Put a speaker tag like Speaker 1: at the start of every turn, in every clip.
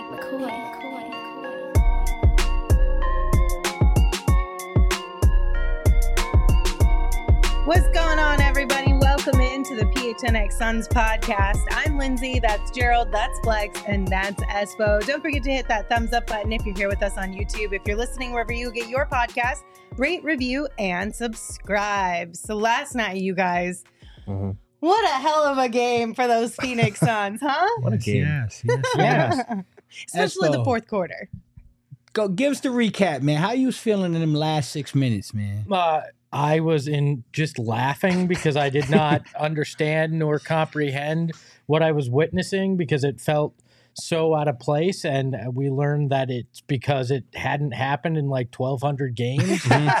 Speaker 1: What's going on, everybody? Welcome into the PHNX Suns podcast. I'm Lindsay, that's Gerald, that's Flex, and that's Espo. Don't forget to hit that thumbs up button if you're here with us on YouTube. If you're listening wherever you get your podcast, rate, review, and subscribe. So last night, you guys, what a hell of a game for those Phoenix Suns, huh?
Speaker 2: What a game.
Speaker 3: Yes.
Speaker 1: Especially the
Speaker 3: Espo,
Speaker 1: fourth quarter.
Speaker 3: Go give us the recap, man. How you was feeling in them last 6 minutes, man?
Speaker 2: I was just laughing because I did not understand nor comprehend what I was witnessing because it felt so out of place. And we learned that it's because it hadn't happened in like 1,200 games.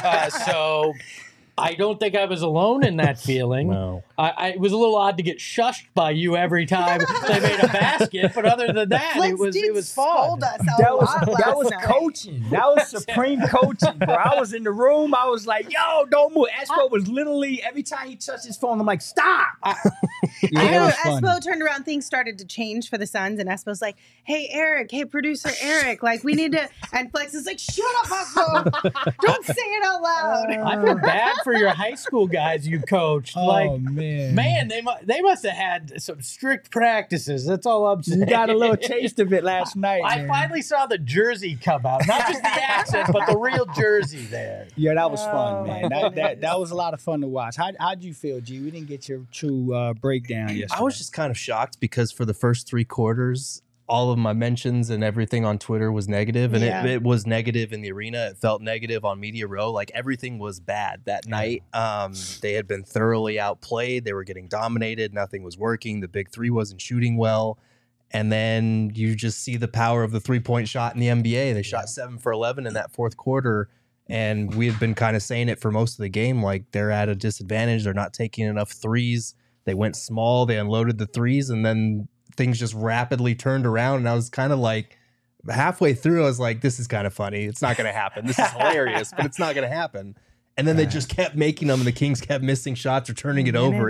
Speaker 2: So I don't think I was alone in that feeling.
Speaker 4: No.
Speaker 2: It was a little odd to get shushed by you every time they made a basket, but other than that,
Speaker 1: Flex
Speaker 2: it was fun.
Speaker 1: scold us a
Speaker 3: That
Speaker 1: lot
Speaker 3: was
Speaker 1: last night.
Speaker 3: coaching. That was supreme coaching, bro. I was in the room. I was like, yo, don't move. Espo was literally, every time he touched his phone, I'm like, stop. Yeah,
Speaker 1: I
Speaker 3: it
Speaker 1: know,
Speaker 3: was fun.
Speaker 1: Espo turned around, things started to change for the Suns, and Espo's like, hey, Eric, hey, producer Eric, like, we need to, and Flex is like, shut up, Espo, don't say it out loud.
Speaker 2: I feel bad for your high school guys you coached.
Speaker 3: Oh, man.
Speaker 2: They must have had some strict practices. That's all I'm saying.
Speaker 3: You got a little taste of it last night,
Speaker 2: I
Speaker 3: man.
Speaker 2: finally saw the jersey come out. Not just the accent, but the real jersey there.
Speaker 3: Yeah, that was
Speaker 1: Oh,
Speaker 3: fun,
Speaker 1: my
Speaker 3: man. That was a lot of fun to watch. How'd you feel, G? We didn't get your true breakdown yesterday.
Speaker 4: I was just kind of shocked because for the first three quarters, all of my mentions and everything on Twitter was negative, and
Speaker 1: Yeah.
Speaker 4: it was negative in the arena. It felt negative on Media Row. Like everything was bad that night. They had been thoroughly outplayed. They were getting dominated. Nothing was working. The big three wasn't shooting well. And then you just see the power of the 3-point shot in the NBA. They shot 7 for 11 in that fourth quarter. And we had been kind of saying it for most of the game, like they're at a disadvantage. They're not taking enough threes. They went small. They unloaded the threes, and then things just rapidly turned around. And I was kind of like, halfway through, I was like, this is kind of funny. It's not going to happen. This is hilarious, but it's not going to happen. And then they just kept making them, and the Kings kept missing shots or turning it over.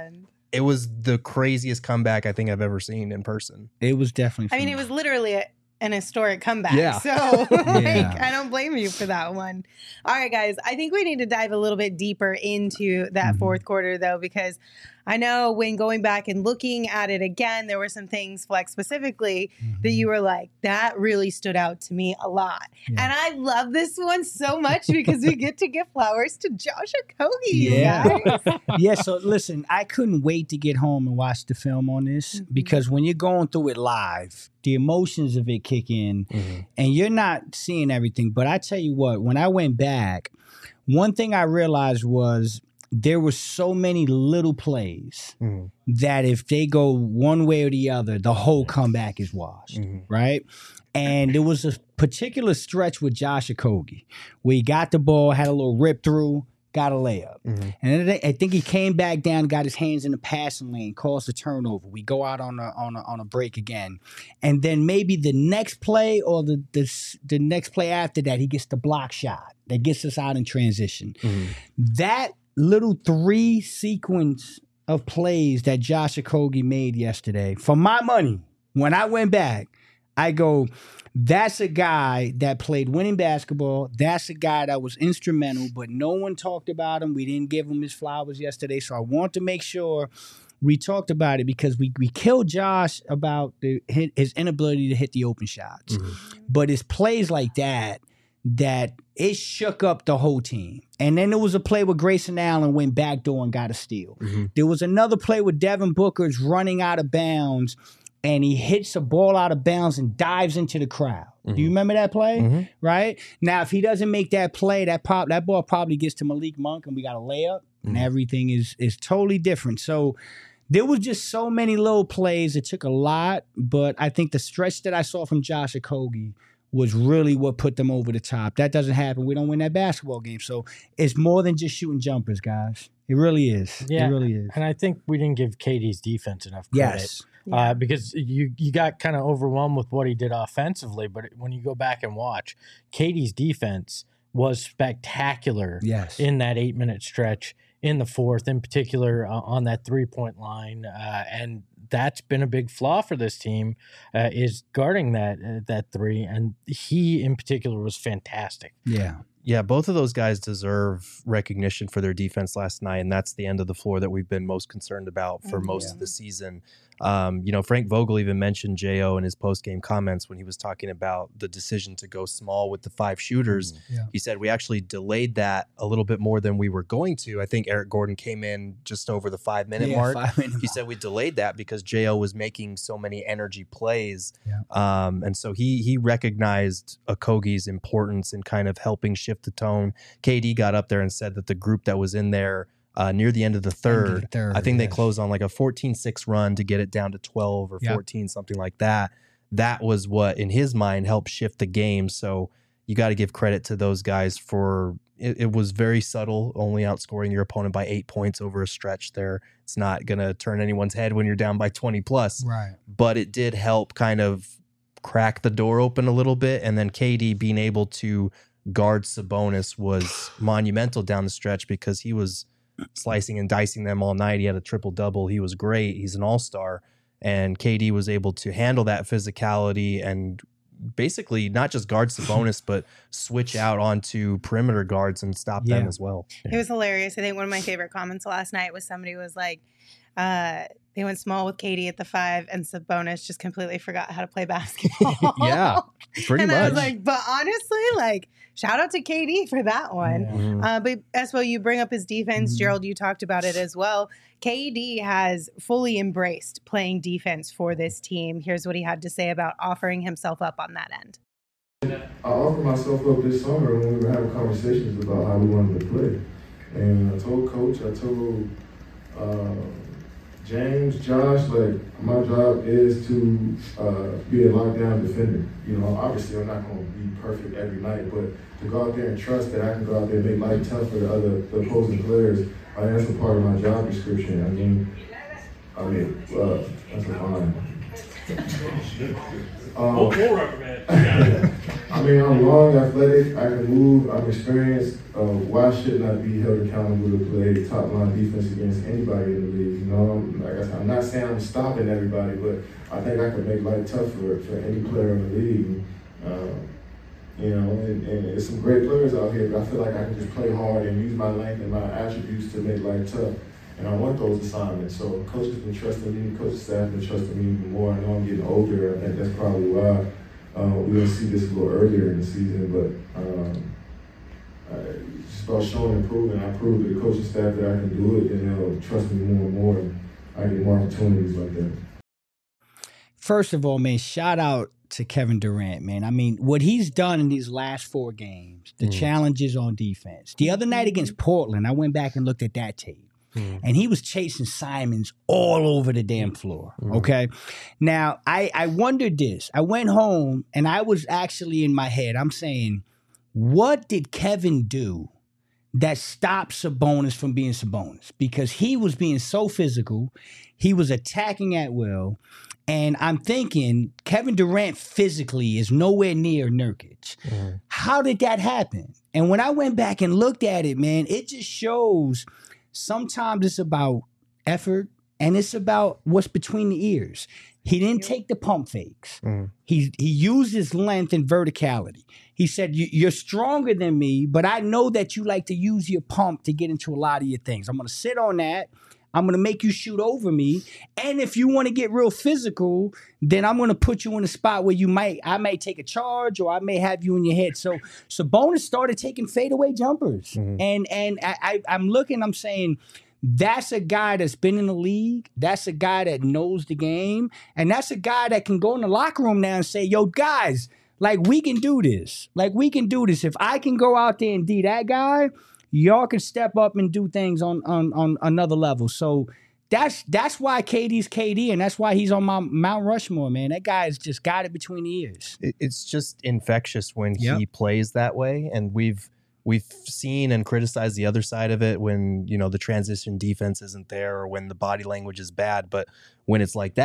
Speaker 4: It was the craziest comeback I think I've ever seen in person.
Speaker 3: It was definitely
Speaker 1: I mean, it was literally an historic comeback.
Speaker 4: Yeah.
Speaker 1: So like,
Speaker 3: Yeah.
Speaker 1: I don't blame you for that one. All right, guys. I think we need to dive a little bit deeper into that fourth quarter, though, because I know when going back and looking at it again, there were some things, Flex specifically, that you were like, that really stood out to me a lot.
Speaker 3: Yeah.
Speaker 1: And I love this one so much because we get to give flowers to Josh Okogie,
Speaker 3: Yeah.
Speaker 1: you guys.
Speaker 3: Yeah, so listen, I couldn't wait to get home and watch the film on this because when you're going through it live, the emotions of it kick in and you're not seeing everything. But I tell you what, when I went back, one thing I realized was there were so many little plays that if they go one way or the other, the whole comeback is washed, right? And there was a particular stretch with Josh Okogie where he got the ball, had a little rip through, got a layup. And then I think he came back down, got his hands in the passing lane, caused a turnover. We go out on a break again. And then maybe the next play or the next play after that, he gets the block shot that gets us out in transition. That little 3 sequence of plays that Josh Okogie made yesterday, for my money, when I went back, I go, that's a guy that played winning basketball. That's a guy that was instrumental, but no one talked about him. We didn't give him his flowers yesterday. So I want to make sure we talked about it because we killed Josh about his inability to hit the open shots. But it's plays like that it shook up the whole team. And then there was a play where Grayson Allen went backdoor and got a steal. There was another play where Devin Booker's running out of bounds and he hits a ball out of bounds and dives into the crowd. Do you remember that play? Right? Now, if he doesn't make that play, that ball probably gets to Malik Monk and we got a layup and everything is totally different. So there was just so many little plays. It took a lot, but I think the stretch that I saw from Josh Okogie was really what put them over the top. That doesn't happen. We don't win that basketball game. So it's more than just shooting jumpers, guys. It really is.
Speaker 2: Yeah,
Speaker 3: it really is.
Speaker 2: And I think we didn't give KD's defense enough credit.
Speaker 3: Yes.
Speaker 2: Because you got kind of overwhelmed with what he did offensively. But when you go back and watch, KD's defense was spectacular in that 8-minute stretch in the fourth, in particular on that 3-point line. And that's been a big flaw for this team, is guarding that three. And he in particular was fantastic.
Speaker 4: Yeah, both of those guys deserve recognition for their defense last night, and that's the end of the floor that we've been most concerned about for most of the season. Frank Vogel even mentioned J.O. in his post-game comments when he was talking about the decision to go small with the 5 shooters. He said, we actually delayed that a little bit more than we were going to. I think Eric Gordon came in just over the 5-minute mark. He said we delayed that because J.O. was making so many energy plays. And so he recognized Okogie's importance in kind of helping shift the tone. KD got up there and said that the group that was in there near the end of the third, I think they closed on like a 14-6 run to get it down to 12 or 14, something like that. That was what, in his mind, helped shift the game. So you got to give credit to those guys for it was very subtle, only outscoring your opponent by 8 points over a stretch there. It's not going to turn anyone's head when you're down by 20 plus.
Speaker 3: Right.
Speaker 4: But it did help kind of crack the door open a little bit. And then KD being able to guard Sabonis was monumental down the stretch because he was slicing and dicing them all night. He had a triple-double. He was great. He's an all-star. And KD was able to handle that physicality and basically not just guard Sabonis, but switch out onto perimeter guards and stop them as well.
Speaker 1: It was hilarious. I think one of my favorite comments last night was somebody was like, they went small with KD at the 5 and Sabonis just completely forgot how to play basketball.
Speaker 4: Yeah, pretty much.
Speaker 1: I was like, but honestly, like, shout out to KD for that one. But Espo, you bring up his defense. Gerald, you talked about it as well. KD has fully embraced playing defense for this team. Here's what he had to say about offering himself up on that end.
Speaker 5: I offered myself up this summer when we were having conversations about how we wanted to play. And I told Coach, I told James, Josh, like, my job is to be a lockdown defender. You know, obviously I'm not going to be perfect every night, but to go out there and trust that I can go out there and make life tough for the opposing players, that's a part of my job description. I mean, that's a fine. I mean, I'm long, athletic, I can move, I'm experienced. Why shouldn't I be held accountable to play top-line defense against anybody in the league? You know, like I said, I'm not saying I'm stopping everybody, but I think I can make life tough for any player in the league. You know, and there's some great players out here, but I feel like I can just play hard and use my length and my attributes to make life tough. And I want those assignments. So coach has been trusting me, coaching staff has been trusting me even more. I know I'm getting older. I think that's probably why we didn't see this a little earlier in the season. But it's just about showing and proving. I proved to the coaching staff that I can do it, and they'll trust me more and more. And I get more opportunities like that.
Speaker 3: First of all, man, shout out to Kevin Durant, man. I mean, what he's done in these last 4 games, the challenges on defense. The other night against Portland, I went back and looked at that tape. And he was chasing Simons all over the damn floor, okay? Now, I wondered this. I went home, and I was actually in my head, I'm saying, what did Kevin do that stopped Sabonis from being Sabonis? Because he was being so physical. He was attacking at will. And I'm thinking Kevin Durant physically is nowhere near Nurkic. How did that happen? And when I went back and looked at it, man, it just shows sometimes it's about effort and it's about what's between the ears. He didn't take the pump fakes. He used his length and verticality. He said, you're stronger than me, but I know that you like to use your pump to get into a lot of your things. I'm going to sit on that. I'm going to make you shoot over me. And if you want to get real physical, then I'm going to put you in a spot where I may take a charge or I may have you in your head. So Sabonis started taking fadeaway jumpers. And I'm looking, I'm saying, that's a guy that's been in the league. That's a guy that knows the game. And that's a guy that can go in the locker room now and say, yo, guys, like, we can do this. Like, we can do this. If I can go out there and be that guy, y'all can step up and do things on another level. So that's why KD's KD, and that's why he's on my Mount Rushmore, man. That guy has just got it between the ears.
Speaker 4: It's just infectious when he plays that way, and we've seen and criticized the other side of it when, you know, the transition defense isn't there or when the body language is bad. But when it's like that,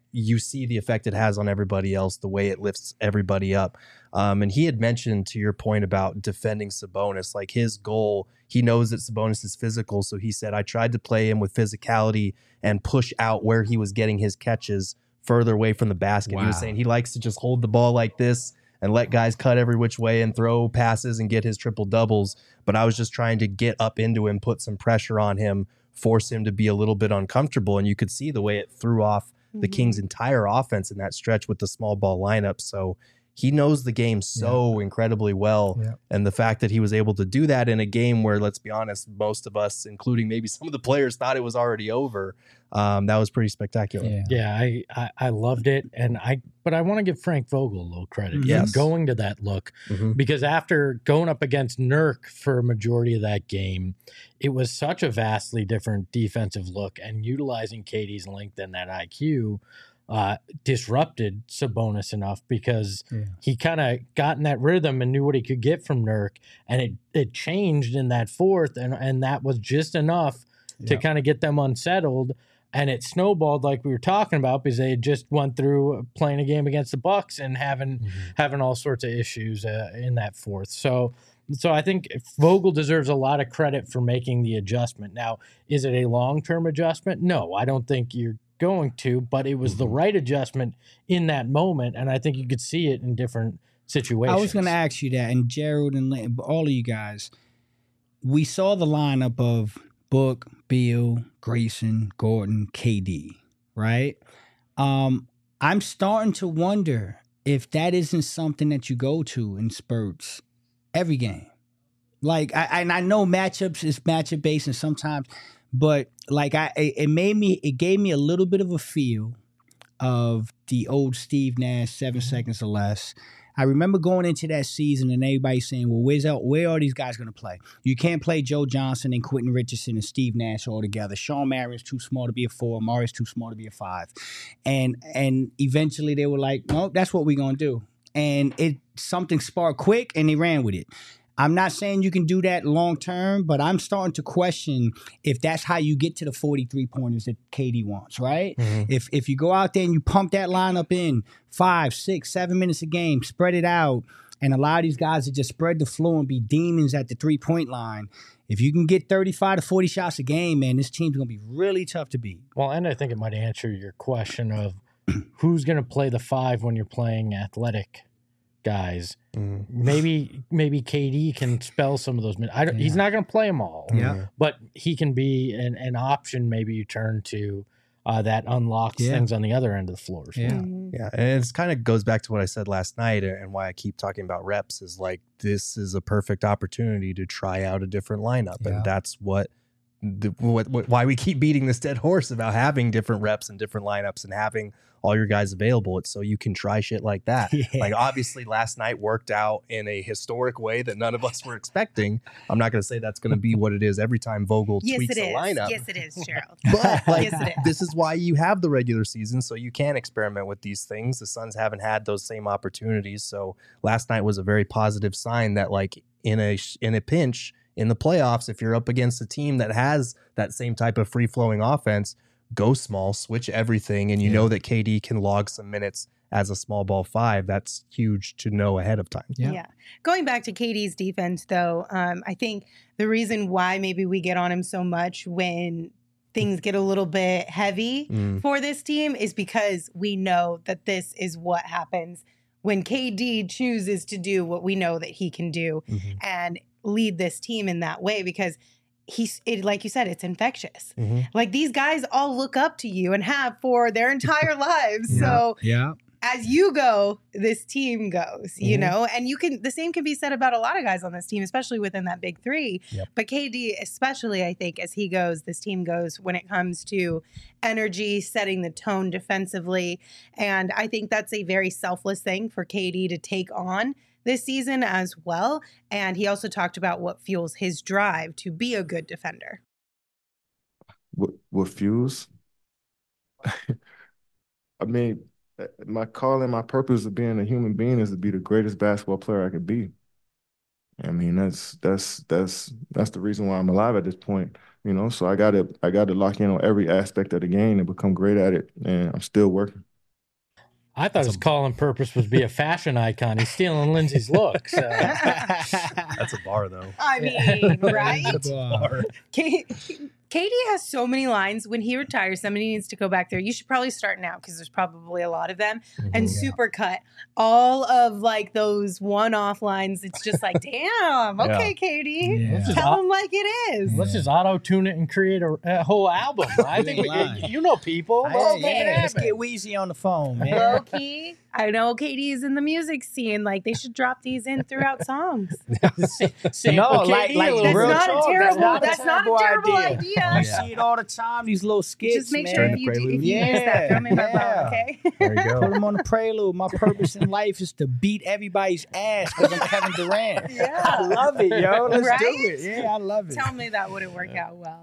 Speaker 4: you see the effect it has on everybody else, the way it lifts everybody up. And he had mentioned, to your point about defending Sabonis, like his goal, he knows that Sabonis is physical. So he said, I tried to play him with physicality and push out where he was getting his catches further away from the basket. Wow. He was saying he likes to just hold the ball like this and let guys cut every which way and throw passes and get his triple doubles. But I was just trying to get up into him, put some pressure on him, force him to be a little bit uncomfortable. And you could see the way it threw off the Kings' entire offense in that stretch with the small ball lineup. So he knows the game so incredibly well. Yeah. And the fact that he was able to do that in a game where, let's be honest, most of us, including maybe some of the players, thought it was already over. That was pretty spectacular.
Speaker 2: I loved it. But I want to give Frank Vogel a little credit for going to that look, because after going up against Nurk for a majority of that game, it was such a vastly different defensive look, and utilizing KD's length and that IQ disrupted Sabonis enough, because he kind of got in that rhythm and knew what he could get from Nurk, and it changed in that fourth, and that was just enough to kind of get them unsettled. And it snowballed, like we were talking about, because they had just went through playing a game against the Bucks and having all sorts of issues in that fourth. So I think Vogel deserves a lot of credit for making the adjustment. Now, is it a long-term adjustment? No, I don't think you're going to, but it was the right adjustment in that moment, and I think you could see it in different situations.
Speaker 3: I was going to ask you that, and Gerald and all of you guys, we saw the lineup of Book, Beal, Grayson, Gordon, KD, right? I'm starting to wonder if that isn't something that you go to in spurts every game. Like, I know matchups is matchup based, and sometimes, but like it gave me a little bit of a feel of the old Steve Nash 7 seconds or less. I remember going into that season and everybody saying, well, where are these guys going to play? You can't play Joe Johnson and Quentin Richardson and Steve Nash all together. Sean Marion's too small to be a 4. Morris too small to be a 5. And eventually they were like, no, that's what we're going to do. And something sparked quick, and they ran with it. I'm not saying you can do that long term, but I'm starting to question if that's how you get to the 43 pointers that KD wants, right? If you go out there and you pump that lineup in 5, 6, 7 minutes a game, spread it out, and allow these guys to just spread the floor and be demons at the 3-point line. If you can get 35 to 40 shots a game, man, this team's going to be really tough to beat.
Speaker 2: Well, and I think it might answer your question of who's going to play the 5 when you're playing athletic guys. Maybe KD can spell some of those minutes. He's not going to play them all. But he can be an option. Maybe you turn to that unlocks things on the other end of the floor.
Speaker 4: And it kind of goes back to what I said last night, and why I keep talking about reps is like, this is a perfect opportunity to try out a different lineup, and that's why we keep beating this dead horse about having different reps and different lineups and having all your guys available. It's so you can try shit like that. Like, obviously last night worked out in a historic way that none of us were expecting. I'm not going to say that's going to be what it is every time Vogel tweaks a lineup.
Speaker 1: Yes, it is, Gerald.
Speaker 4: But like, this is why you have the regular season, so you can experiment with these things. The Suns haven't had those same opportunities. So last night was a very positive sign that, like, in a pinch in the playoffs, if you're up against a team that has that same type of free-flowing offense, go small, switch everything, and you know that KD can log some minutes as a small ball 5. That's huge to know ahead of time.
Speaker 1: Yeah. Going back to KD's defense, though, I think the reason why maybe we get on him so much when things get a little bit heavy for this team is because we know that this is what happens when KD chooses to do what we know that he can do and lead this team in that way, because like you said, it's infectious. Like, these guys all look up to you and have for their entire lives. So as you go, this team goes, you know, and the same can be said about a lot of guys on this team, especially within that big 3. But KD, especially, I think, as he goes, this team goes when it comes to energy, setting the tone defensively. And I think that's a very selfless thing for KD to take on this season as well. And he also talked about what fuels his drive to be a good defender.
Speaker 5: What fuels? I mean, my calling, my purpose of being a human being is to be the greatest basketball player I could be. I mean, that's the reason why I'm alive at this point, you know. So I got to lock in on every aspect of the game and become great at it. And I'm still working.
Speaker 2: I thought his calling purpose was be a fashion icon. He's stealing Lindsay's looks.
Speaker 4: That's a bar, though.
Speaker 1: I mean, right?
Speaker 3: Bar.
Speaker 1: Katie has so many lines. When he retires, somebody needs to go back there. You should probably start now because there's probably a lot of them. And supercut all of like those one-off lines. It's just like, damn, okay, Katie.
Speaker 3: Yeah.
Speaker 1: Tell them like it is.
Speaker 2: Let's just auto-tune it and create a whole album. I think you know people. Let's make it
Speaker 3: Let's
Speaker 2: happen.
Speaker 3: get Weezy on the phone, man.
Speaker 1: Low key. I know Katie is in the music scene. Like they should drop these in throughout songs.
Speaker 3: No, like
Speaker 1: That's
Speaker 3: real
Speaker 1: not
Speaker 3: talk,
Speaker 1: a terrible.
Speaker 3: that's not a terrible idea.
Speaker 1: idea.
Speaker 3: You see it all the time. These little skits,
Speaker 1: Just make
Speaker 3: man.
Speaker 1: sure if you use that, throw me my phone, okay?
Speaker 4: There you
Speaker 3: Put
Speaker 4: go.
Speaker 3: them on the prelude. My purpose in life is to beat everybody's ass because I'm Kevin Durant.
Speaker 1: Yeah.
Speaker 3: I love it, yo. Let's
Speaker 1: Right?
Speaker 3: do it. Yeah, I love it.
Speaker 1: Tell me that wouldn't work out well.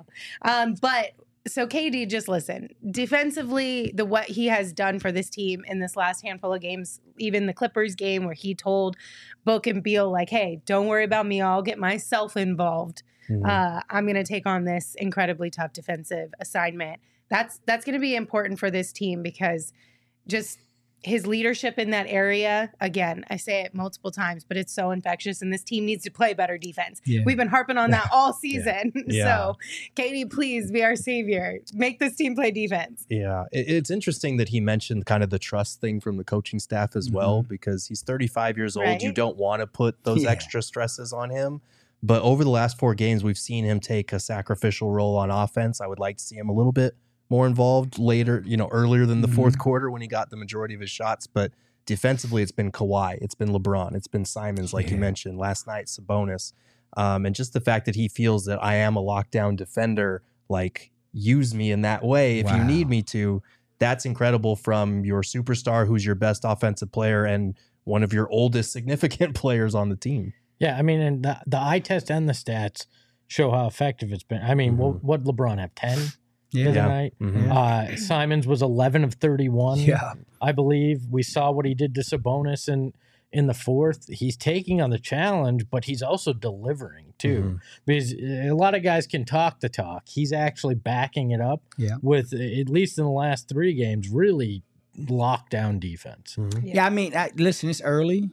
Speaker 1: But so KD, just listen. Defensively, what he has done for this team in this last handful of games, even the Clippers game where he told Book and Beal, like, hey, don't worry about me. I'll get myself involved. I'm going to take on this incredibly tough defensive assignment. That's going to be important for this team because just his leadership in that area, again, I say it multiple times, but it's so infectious and this team needs to play better defense.
Speaker 3: Yeah.
Speaker 1: We've been harping on that all season.
Speaker 4: Yeah.
Speaker 1: So, Katie, please be our savior. Make this team play defense.
Speaker 4: Yeah, it's interesting that he mentioned kind of the trust thing from the coaching staff as well, because he's 35 years old.
Speaker 1: Right.
Speaker 4: You don't want to put those extra stresses on him. But over the last 4 games, we've seen him take a sacrificial role on offense. I would like to see him a little bit more involved later, earlier than the fourth quarter when he got the majority of his shots. But defensively, it's been Kawhi, it's been LeBron, it's been Simons, like you mentioned last night, Sabonis. And just the fact that he feels that I am a lockdown defender, like use me in that way if you need me to. That's incredible from your superstar, who's your best offensive player and one of your oldest significant players on the team.
Speaker 2: Yeah, I mean, and the eye test and the stats show how effective it's been. I mean, what LeBron have 10 the other night? Simons was 11 of 31.
Speaker 3: Yeah.
Speaker 2: I believe we saw what he did to Sabonis in the fourth. He's taking on the challenge, but he's also delivering too. Because a lot of guys can talk the talk. He's actually backing it up with, at least in the last 3 games, really lockdown defense.
Speaker 3: Yeah, I mean, listen, it's early.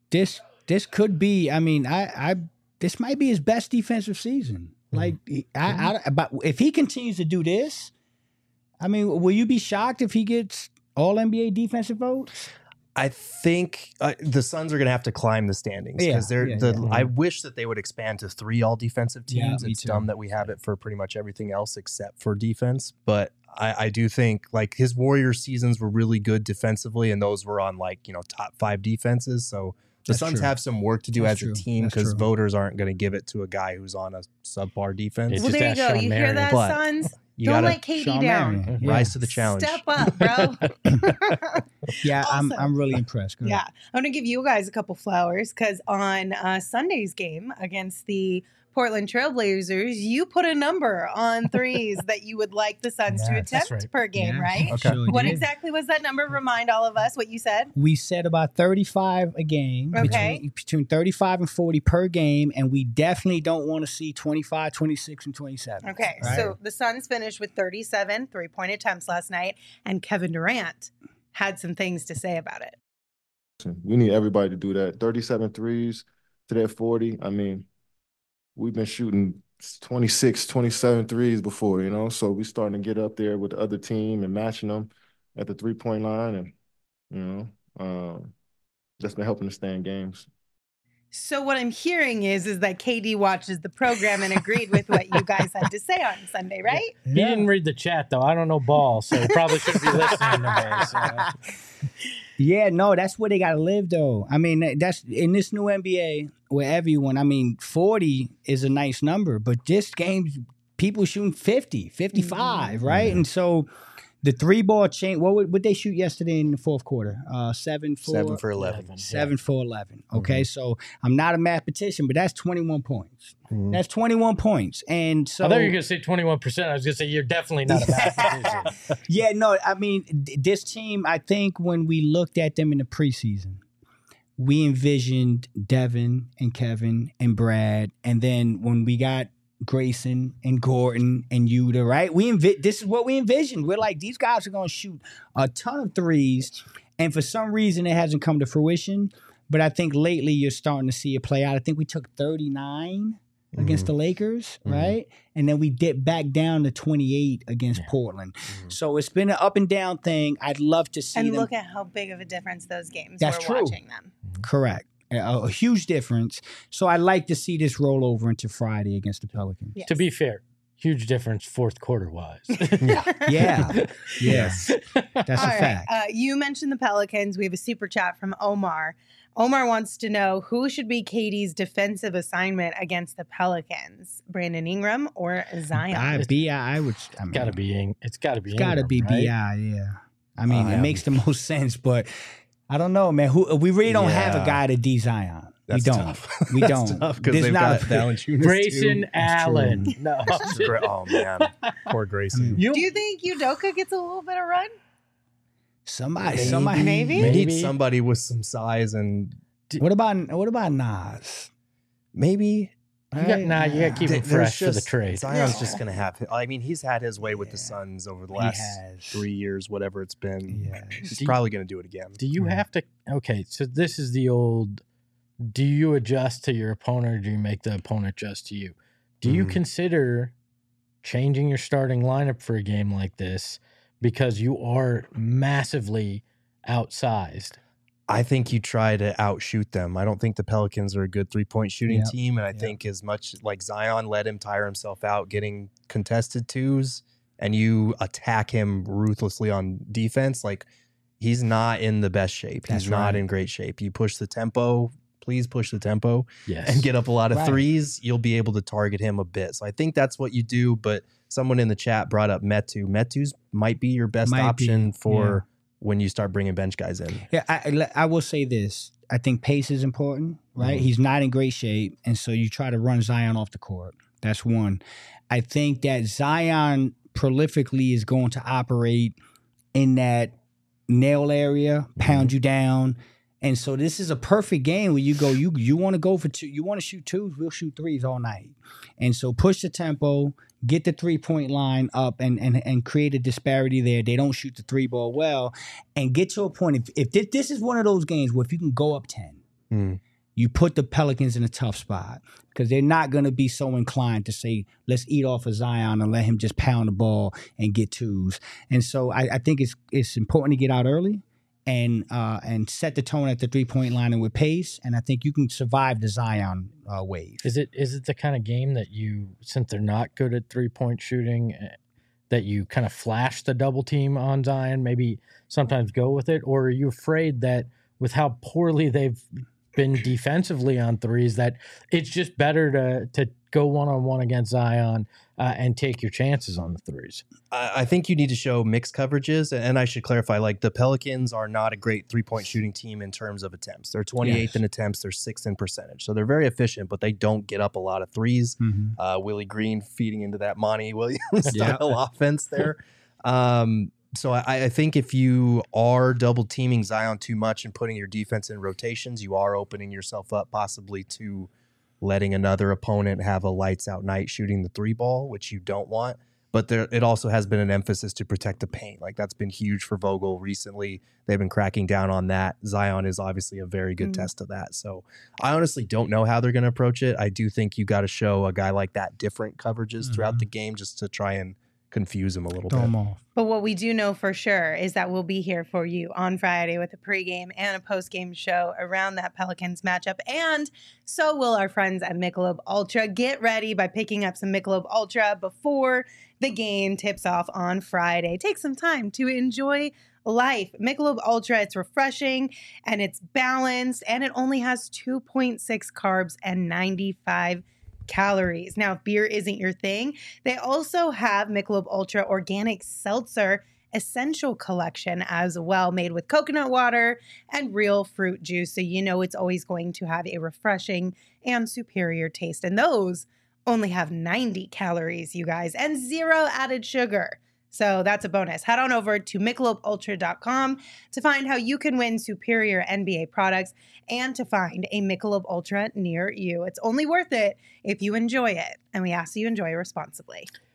Speaker 3: This could be. I mean, this might be his best defensive season. Like, but if he continues to do this, I mean, will you be shocked if he gets All NBA defensive votes?
Speaker 4: I think the Suns are going to have to climb the standings because I wish that they would expand to 3 all defensive teams. It's dumb that we have it for pretty much everything else except for defense. But I do think like his Warriors seasons were really good defensively, and those were on top 5 defenses. So the Suns have some work to do as a team because voters aren't going to give it to a guy who's on a subpar defense.
Speaker 1: Well, there you go. You hear that, Suns? Don't let Katie down.
Speaker 4: Rise to the challenge.
Speaker 1: Step up, bro.
Speaker 3: Yeah,
Speaker 1: Awesome.
Speaker 3: I'm really impressed. Go ahead.
Speaker 1: Yeah, I'm going to give you guys a couple flowers because on Sunday's game against the Portland Trailblazers, you put a number on threes that you would like the Suns to attempt per game, right?
Speaker 3: Okay. Sure
Speaker 1: What
Speaker 3: did.
Speaker 1: exactly was that number? Remind all of us what you said.
Speaker 3: We said about 35 a game, between 35 and 40 per game, and we definitely don't want to see 25, 26, and 27.
Speaker 1: Okay,
Speaker 3: right?
Speaker 1: so the Suns finished with 37 three-point attempts last night, and Kevin Durant had some things to say about it.
Speaker 5: We need everybody to do that. 37 threes to that 40. I mean, we've been shooting 26, 27 threes before, so we starting to get up there with the other team and matching them at the 3-point line. And, that's been helping us stay in games.
Speaker 1: So what I'm hearing is that KD watches the program and agreed with what you guys had to say on Sunday, right?
Speaker 2: He didn't read the chat, though. I don't know ball, so he probably should be listening to me. So.
Speaker 3: Yeah, no, that's where they got to live, though. I mean, that's in this new NBA where everyone, 40 is a nice number, but this game, people shooting 50, 55, right? And so the 3-ball chain, what would they shoot yesterday in the fourth quarter? 7 for
Speaker 4: 11.
Speaker 3: 7 for 11. Okay, so I'm not a mathematician, but that's 21 points. That's 21 points. And so
Speaker 2: I thought you were going to say 21%. I was going to say you're definitely not a mathematician.
Speaker 3: Yeah, no, I mean, this team, I think when we looked at them in the preseason, we envisioned Devin and Kevin and Brad. And then when we got Grayson and Gordon and Yuta, right? This is what we envisioned. We're like, these guys are going to shoot a ton of threes. And for some reason, it hasn't come to fruition. But I think lately you're starting to see it play out. I think we took 39 against the Lakers, right? And then we dipped back down to 28 against Portland. So it's been an up and down thing. I'd love to see
Speaker 1: And
Speaker 3: them.
Speaker 1: look at how big of a difference those games
Speaker 3: That's
Speaker 1: were
Speaker 3: true.
Speaker 1: watching them.
Speaker 3: Correct. A huge difference. So I'd like to see this roll over into Friday against the Pelicans.
Speaker 1: Yes.
Speaker 2: To be fair, huge difference fourth quarter wise.
Speaker 3: Yeah. Yes. That's a
Speaker 1: All right.
Speaker 3: fact.
Speaker 1: You mentioned the Pelicans. We have a super chat from Omar. Omar wants to know who should be Katie's defensive assignment against the Pelicans, Brandon Ingram or Zion?
Speaker 3: I would.
Speaker 2: It's got to be. It's got to be.
Speaker 3: Gotta be
Speaker 2: Ingram, right?
Speaker 3: Bi. Yeah. I mean, it makes the most sense, but I don't know, man. We really don't have a guy to D Zion.
Speaker 4: That's
Speaker 3: we don't.
Speaker 4: tough.
Speaker 3: We
Speaker 4: That's
Speaker 3: don't.
Speaker 4: tough because
Speaker 3: There's
Speaker 4: they've
Speaker 3: not
Speaker 4: got Valanciunas
Speaker 2: Grayson
Speaker 4: too.
Speaker 2: Allen. No.
Speaker 4: Oh man, poor Grayson.
Speaker 2: You-
Speaker 1: Do you think Udoka gets a little bit of run?
Speaker 3: Somebody.
Speaker 1: Maybe?
Speaker 4: We need
Speaker 2: Maybe.
Speaker 4: somebody with some size and
Speaker 3: What about Nas?
Speaker 4: maybe.
Speaker 2: You got to keep him
Speaker 4: There's
Speaker 2: fresh for the
Speaker 4: just-
Speaker 2: trade.
Speaker 4: Zion's
Speaker 1: Yeah.
Speaker 4: just gonna have. I mean, he's had his way with the Suns over the last
Speaker 3: has.
Speaker 4: 3 years, whatever it's been.
Speaker 3: Yes.
Speaker 4: He's probably gonna do it again.
Speaker 2: Do you have to? Okay, so this is the old. Do you adjust to your opponent, or do you make the opponent adjust to you? Do you consider changing your starting lineup for a game like this because you are massively outsized?
Speaker 4: I think you try to outshoot them. I don't think the Pelicans are a good 3-point shooting
Speaker 3: Yep.
Speaker 4: team. And I think as much like Zion let him tire himself out getting contested twos and you attack him ruthlessly on defense, like he's not in the best shape.
Speaker 3: That's
Speaker 4: He's not
Speaker 3: right.
Speaker 4: in great shape. You push the tempo, please push the tempo
Speaker 2: Yes.
Speaker 4: and get up a lot of
Speaker 3: Right.
Speaker 4: threes. You'll be able to target him a bit. So I think that's what you do. But someone in the chat brought up Metu. Metu's might be your best
Speaker 3: Might be,
Speaker 4: option for when you start bringing bench guys in.
Speaker 3: Yeah, I will say this. I think pace is important, right? He's not in great shape, and so you try to run Zion off the court. That's one. I think that Zion prolifically is going to operate in that nail area, pound you down. And so this is a perfect game where you go, you want to go for two, you want to shoot twos, we'll shoot threes all night. And so push the tempo, get the 3-point line up and create a disparity there. They don't shoot the 3 ball well. And get to a point, if this is one of those games where if you can go up 10, you put the Pelicans in a tough spot because they're not going to be so inclined to say, let's eat off of Zion and let him just pound the ball and get twos. And so I think it's important to get out early and set the tone at the 3-point line and with pace. And I think you can survive the Zion wave.
Speaker 2: Is it the kind of game that you, since they're not good at 3-point shooting, that you kind of flash the double team on Zion, maybe sometimes go with it? Or are you afraid that with how poorly they've been defensively on threes, that it's just better to go one-on-one against Zion and take your chances on the threes?
Speaker 4: I think you need to show mixed coverages. And I should clarify, like the Pelicans are not a great 3-point shooting team in terms of attempts. They're 28th in attempts. They're 6th in percentage. So they're very efficient, but they don't get up a lot of threes. Willie Green feeding into that Monty Williams style offense there. So I think if you are double teaming Zion too much and putting your defense in rotations, you are opening yourself up possibly to letting another opponent have a lights out night shooting the 3 ball, which you don't want. But it also has been an emphasis to protect the paint. Like that's been huge for Vogel recently. They've been cracking down on that. Zion is obviously a very good test of that. So I honestly don't know how they're going to approach it. I do think you got to show a guy like that different coverages throughout the game just to try and confuse him a little
Speaker 3: Throw
Speaker 4: bit.
Speaker 3: them off.
Speaker 1: But what we do know for sure is that we'll be here for you on Friday with a pregame and a postgame show around that Pelicans matchup. And so will our friends at Michelob Ultra. Get ready by picking up some Michelob Ultra before the game tips off on Friday. Take some time to enjoy life. Michelob Ultra, it's refreshing and it's balanced and it only has 2.6 carbs and 95 calories. Now, if beer isn't your thing, they also have Michelob Ultra Organic Seltzer Essential Collection as well, made with coconut water and real fruit juice. So you know it's always going to have a refreshing and superior taste. And those only have 90 calories, you guys, and 0 added sugar. So that's a bonus. Head on over to MichelobUltra.com to find how you can win superior NBA products and to find a Michelob Ultra near you. It's only worth it if you enjoy it, and we ask you enjoy responsibly.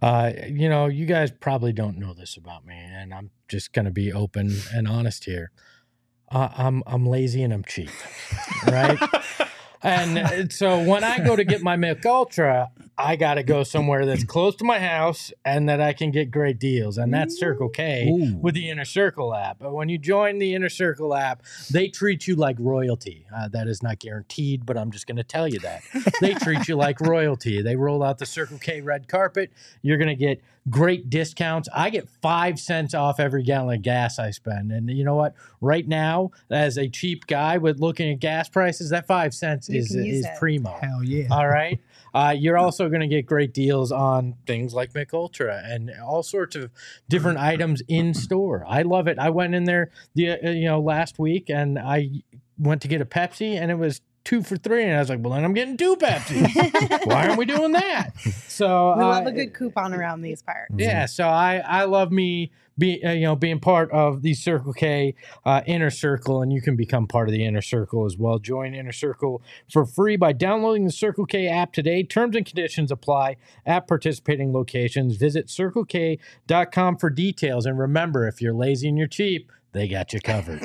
Speaker 2: You guys probably don't know this about me, and I'm just going to be open and honest here. I'm lazy and I'm cheap, right? And so when I go to get my Mick Ultra, I got to go somewhere that's close to my house and that I can get great deals. And that's Circle K with the Inner Circle app. But when you join the Inner Circle app, they treat you like royalty. That is not guaranteed, but I'm just going to tell you that. They treat you like royalty. They roll out the Circle K red carpet. You're going to get great discounts. I get 5 cents off every gallon of gas I spend. And you know what? Right now, as a cheap guy with looking at gas prices, that 5 cents is primo.
Speaker 3: Hell yeah.
Speaker 2: All right. You're also going to get great deals on things like Mick Ultra and all sorts of different items in store. I love it. I went in there last week and I went to get a Pepsi and it was 2 for $3, and I was like, well, then I'm getting 2 Pepsi. Why aren't we doing that? So
Speaker 1: we love a good coupon around these parts.
Speaker 2: Yeah, so I love being part of the Circle K Inner Circle, and you can become part of the Inner Circle as well. Join Inner Circle for free by downloading the Circle K app today. Terms and conditions apply at participating locations. Visit CircleK.com for details, and remember, if you're lazy and you're cheap, they got you covered.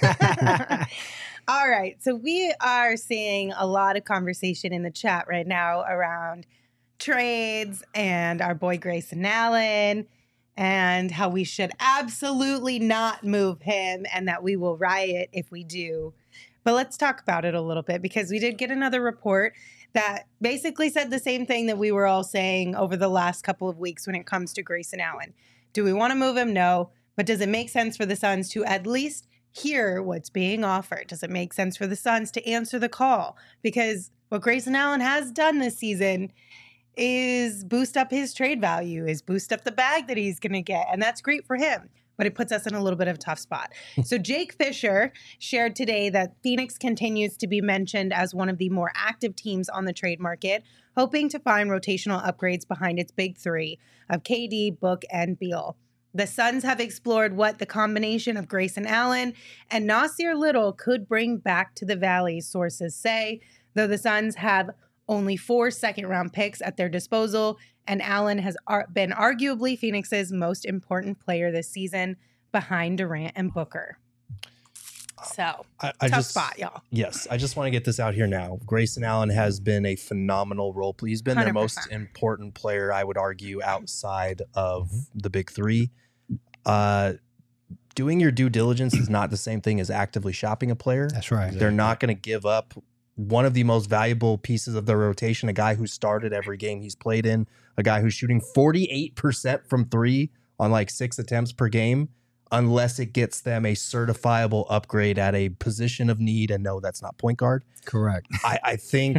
Speaker 1: All right. So we are seeing a lot of conversation in the chat right now around trades and our boy Grayson Allen and how we should absolutely not move him and that we will riot if we do. But let's talk about it a little bit because we did get another report that basically said the same thing that we were all saying over the last couple of weeks when it comes to Grayson Allen. Do we want to move him? No. But does it make sense for the Suns to at least hear what's being offered? Does it make sense for the Suns to answer the call? Because what Grayson Allen has done this season is boost up his trade value, is boost up the bag that he's going to get. And that's great for him, but it puts us in a little bit of a tough spot. So Jake Fisher shared today that Phoenix continues to be mentioned as one of the more active teams on the trade market, hoping to find rotational upgrades behind its big three of KD, Book, and Beal. The Suns have explored what the combination of Grayson Allen and Nasir Little could bring back to the Valley, sources say, though the Suns have only 4 second-round picks at their disposal, and Allen has been arguably Phoenix's most important player this season behind Durant and Booker. So, tough spot, y'all.
Speaker 4: Yes, I just want to get this out here now. Grayson Allen has been a phenomenal role player. He's been 100%. Their most important player, I would argue, outside of the big three. Doing your due diligence is not the same thing as actively shopping a player.
Speaker 3: That's right.
Speaker 4: They're not going to give up one of the most valuable pieces of their rotation, a guy who started every game he's played in, a guy who's shooting 48% from three on like 6 attempts per game, unless it gets them a certifiable upgrade at a position of need. And no, that's not point guard.
Speaker 3: Correct.
Speaker 4: I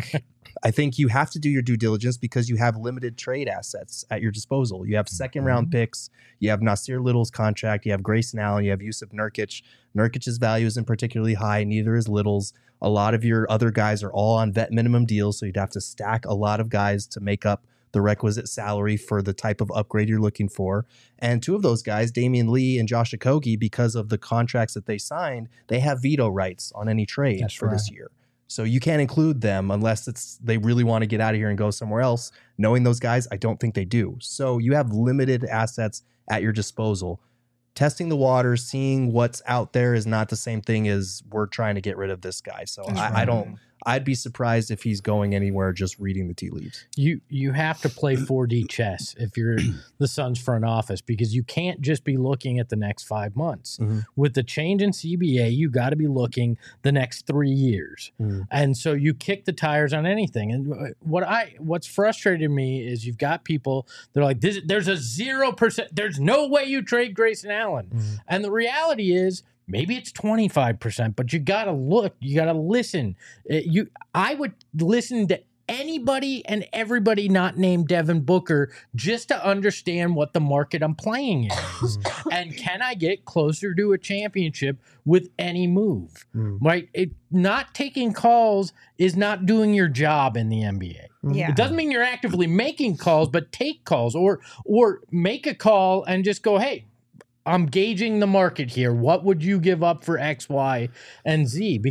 Speaker 4: think you have to do your due diligence because you have limited trade assets at your disposal. You have second round picks. You have Nasir Little's contract. You have Grayson Allen. You have Yusuf Nurkic. Nurkic's value isn't particularly high. Neither is Little's. A lot of your other guys are all on vet minimum deals, so you'd have to stack a lot of guys to make up the requisite salary for the type of upgrade you're looking for. And 2 of those guys, Damian Lee and Josh Okogie, because of the contracts that they signed, they have veto rights on any trade this year. So you can't include them unless they really want to get out of here and go somewhere else. Knowing those guys, I don't think they do. So you have limited assets at your disposal. Testing the waters, seeing what's out there is not the same thing as we're trying to get rid of this guy. So I'd be surprised if he's going anywhere just reading the tea leaves.
Speaker 2: You have to play 4D chess if you're the Suns front office, because you can't just be looking at the next 5 months. With the change in CBA, you got to be looking the next 3 years. And so you kick the tires on anything. And what's frustrated me is you've got people that are like, there's a 0%, there's no way you trade Grayson Allen. And the reality is, maybe it's 25%, but you got to look, you got to listen. I would listen to anybody and everybody not named Devin Booker just to understand what the market I'm playing in is. And can I get closer to a championship with any move? Right? Not taking calls is not doing your job in the NBA.
Speaker 1: Yeah.
Speaker 2: It doesn't mean you're actively making calls, but take calls or make a call and just go, hey, I'm gauging the market here. What would you give up for X, Y, and Z? Because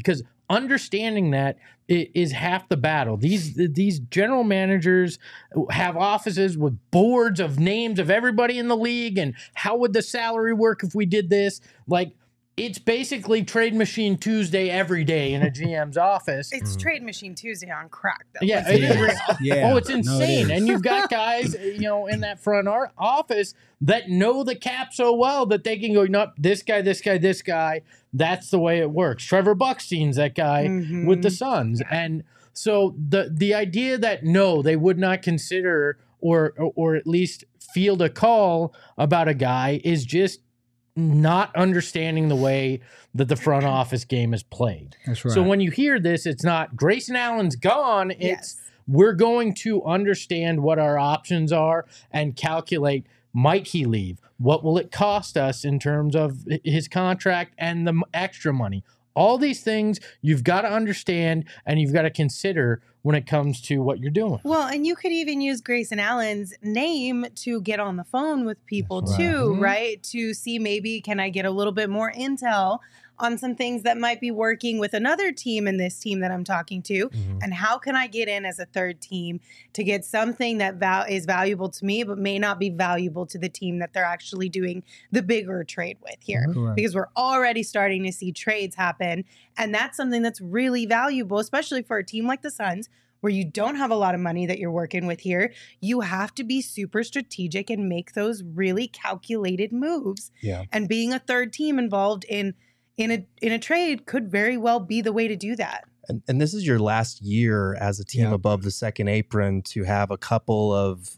Speaker 2: understanding that is half the battle. These general managers have offices with boards of names of everybody in the league, and how would the salary work if we did this? Like, it's basically Trade Machine Tuesday every day in a GM's office.
Speaker 1: It's Trade Machine Tuesday on crack, though.
Speaker 2: Yeah, it is.
Speaker 3: Yeah.
Speaker 2: Oh, it's
Speaker 3: No, it
Speaker 2: insane.
Speaker 3: is.
Speaker 2: And you've got guys, in that front office that know the cap so well that they can go, nope, this guy, this guy, this guy. That's the way it works. Trevor Buckstein's that guy with the Suns. And so the idea that no, they would not consider or at least field a call about a guy is just not understanding the way that the front office game is played.
Speaker 3: That's right.
Speaker 2: So when you hear this, it's not Grayson Allen's gone. It's we're going to understand what our options are and calculate, might he leave? What will it cost us in terms of his contract and the extra money? All these things you've got to understand and you've got to consider when it comes to what you're doing.
Speaker 1: Well, and you could even use Grayson Allen's name to get on the phone with people too, right? To see maybe can I get a little bit more intel on some things that might be working with another team in this team that I'm talking to, and how can I get in as a third team to get something that is valuable to me but may not be valuable to the team that they're actually doing the bigger trade with here. Because we're already starting to see trades happen, and that's something that's really valuable, especially for a team like the Suns, where you don't have a lot of money that you're working with here. You have to be super strategic and make those really calculated moves.
Speaker 4: Yeah.
Speaker 1: And being a third team involved in a trade could very well be the way to do that.
Speaker 4: And this is your last year as a team above the second apron to have a couple of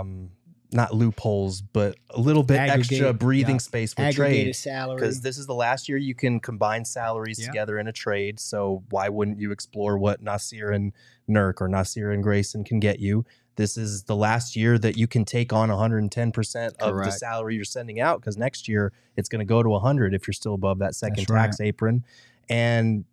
Speaker 4: not loopholes, but a little bit extra breathing space with trade.
Speaker 3: Salary.
Speaker 4: Because this is the last year you can combine salaries together in a trade. So why wouldn't you explore what Nasir and Nurk or Nasir and Grayson can get you? This is the last year that you can take on 110% of the salary you're sending out, because next year it's going to go to 100 if you're still above that second tax apron. And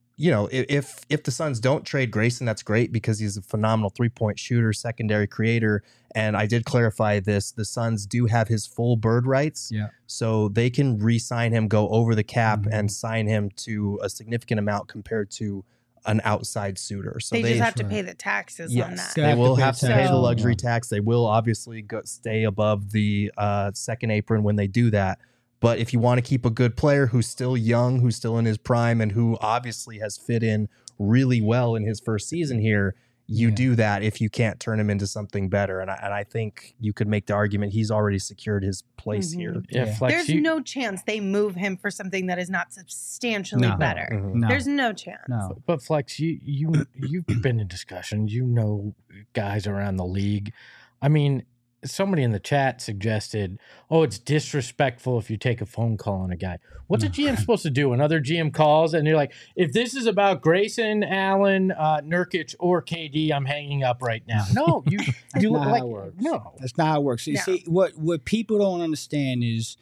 Speaker 4: if the Suns don't trade Grayson, that's great because he's a phenomenal three-point shooter, secondary creator. And I did clarify this. The Suns do have his full bird rights. Yeah. So they can re-sign him, go over the cap, and sign him to a significant amount compared to an outside suitor. So
Speaker 1: they just have to pay the taxes on that.
Speaker 4: They will have to pay the luxury tax. They will obviously stay above the second apron when they do that. But if you want to keep a good player who's still young, who's still in his prime, and who obviously has fit in really well in his first season here, you do that if you can't turn him into something better. And I think you could make the argument he's already secured his place here.
Speaker 2: Yeah, Flex,
Speaker 1: there's no chance they move him for something that is not substantially better.
Speaker 3: No.
Speaker 1: There's no chance.
Speaker 3: No.
Speaker 2: But Flex, you've been in discussions. You know guys around the league. I mean, somebody in the chat suggested, it's disrespectful if you take a phone call on a guy. What's a GM supposed to do? Another GM calls and you're like, if this is about Grayson, Allen, Nurkic, or KD, I'm hanging up right now. No, you
Speaker 3: not how it works.
Speaker 2: No.
Speaker 3: That's not how it works. You see, what people don't understand is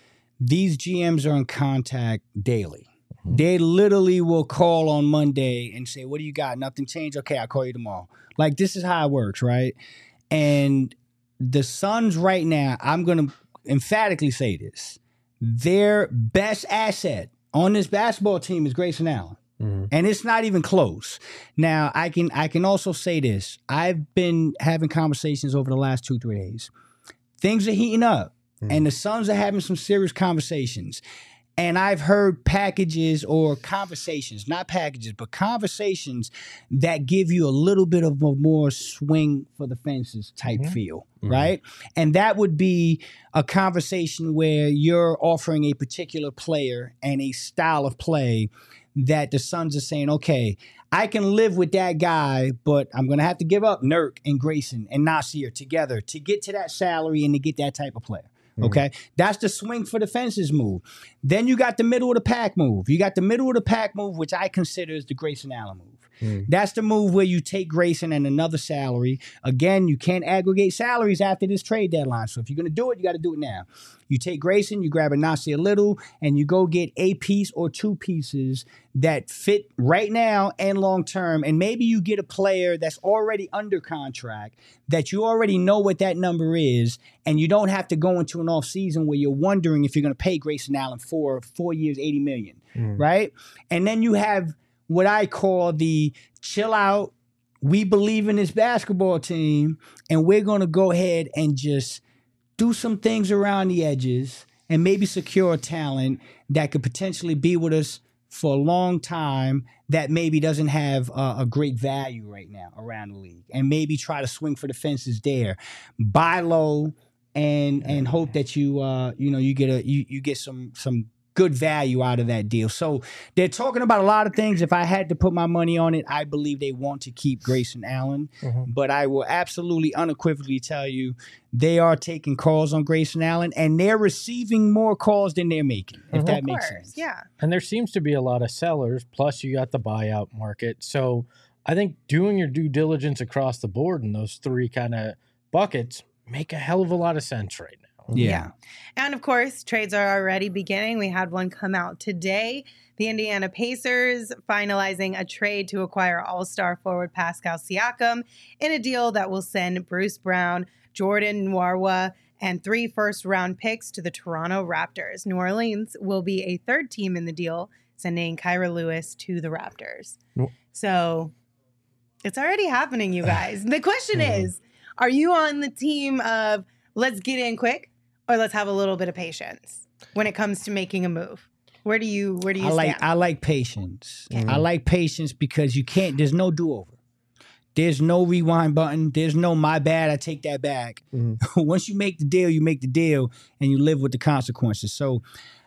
Speaker 3: these GMs are in contact daily. They literally will call on Monday and say, what do you got? Nothing changed? Okay, I'll call you tomorrow. Like, this is how it works, right? And the Suns right now, I'm going to emphatically say this. Their best asset on this basketball team is Grayson Allen. And it's not even close. Now, I can also say this. I've been having conversations over the last 2-3 days. Things are heating up, and the Suns are having some serious conversations. And I've heard packages or conversations, not packages, but conversations that give you a little bit of a more swing for the fences type feel, right? And that would be a conversation where you're offering a particular player and a style of play that the Suns are saying, okay, I can live with that guy, but I'm going to have to give up Nurk and Grayson and Nasir together to get to that salary and to get that type of player. Okay, that's the swing for the fences move. Then you got the middle of the pack move. You got the middle of the pack move, which I consider is the Grayson Allen move. That's the move where you take Grayson and another salary. Again, you can't aggregate salaries after this trade deadline. So if you're going to do it, you got to do it now. You take Grayson, you grab a Nasir Little, and you go get a piece or two pieces that fit right now and long term. And maybe you get a player that's already under contract that you already know what that number is, and you don't have to go into an offseason where you're wondering if you're going to pay Grayson Allen for 4 years, $80 million, right? And then you have what I call the chill out. We believe in this basketball team, and we're going to go ahead and just do some things around the edges and maybe secure talent that could potentially be with us for a long time that maybe doesn't have a great value right now around the league, and maybe try to swing for the fences there, buy low, and hope that you get some good value out of that deal. So they're talking about a lot of things. If I had to put my money on it, I believe they want to keep Grayson Allen. But I will absolutely unequivocally tell you they are taking calls on Grayson Allen, and they're receiving more calls than they're making, if that makes sense.
Speaker 1: Yeah.
Speaker 2: And there seems to be a lot of sellers, plus you got the buyout market. So I think doing your due diligence across the board in those three kind of buckets make a hell of a lot of sense right now.
Speaker 3: Yeah.
Speaker 1: And of course, trades are already beginning. We had one come out today. The Indiana Pacers finalizing a trade to acquire all-star forward Pascal Siakam in a deal that will send Bruce Brown, Jordan Nwora, and 3 first-round picks to the Toronto Raptors. New Orleans will be a third team in the deal, sending Kyra Lewis to the Raptors. So it's already happening, you guys. The question is, are you on the team of let's get in quick, or let's have a little bit of patience when it comes to making a move? Where do you stand?
Speaker 3: I like patience. I like patience because there's no do-over. There's no rewind button. There's no my bad, I take that back. Once you make the deal, you make the deal, and you live with the consequences. So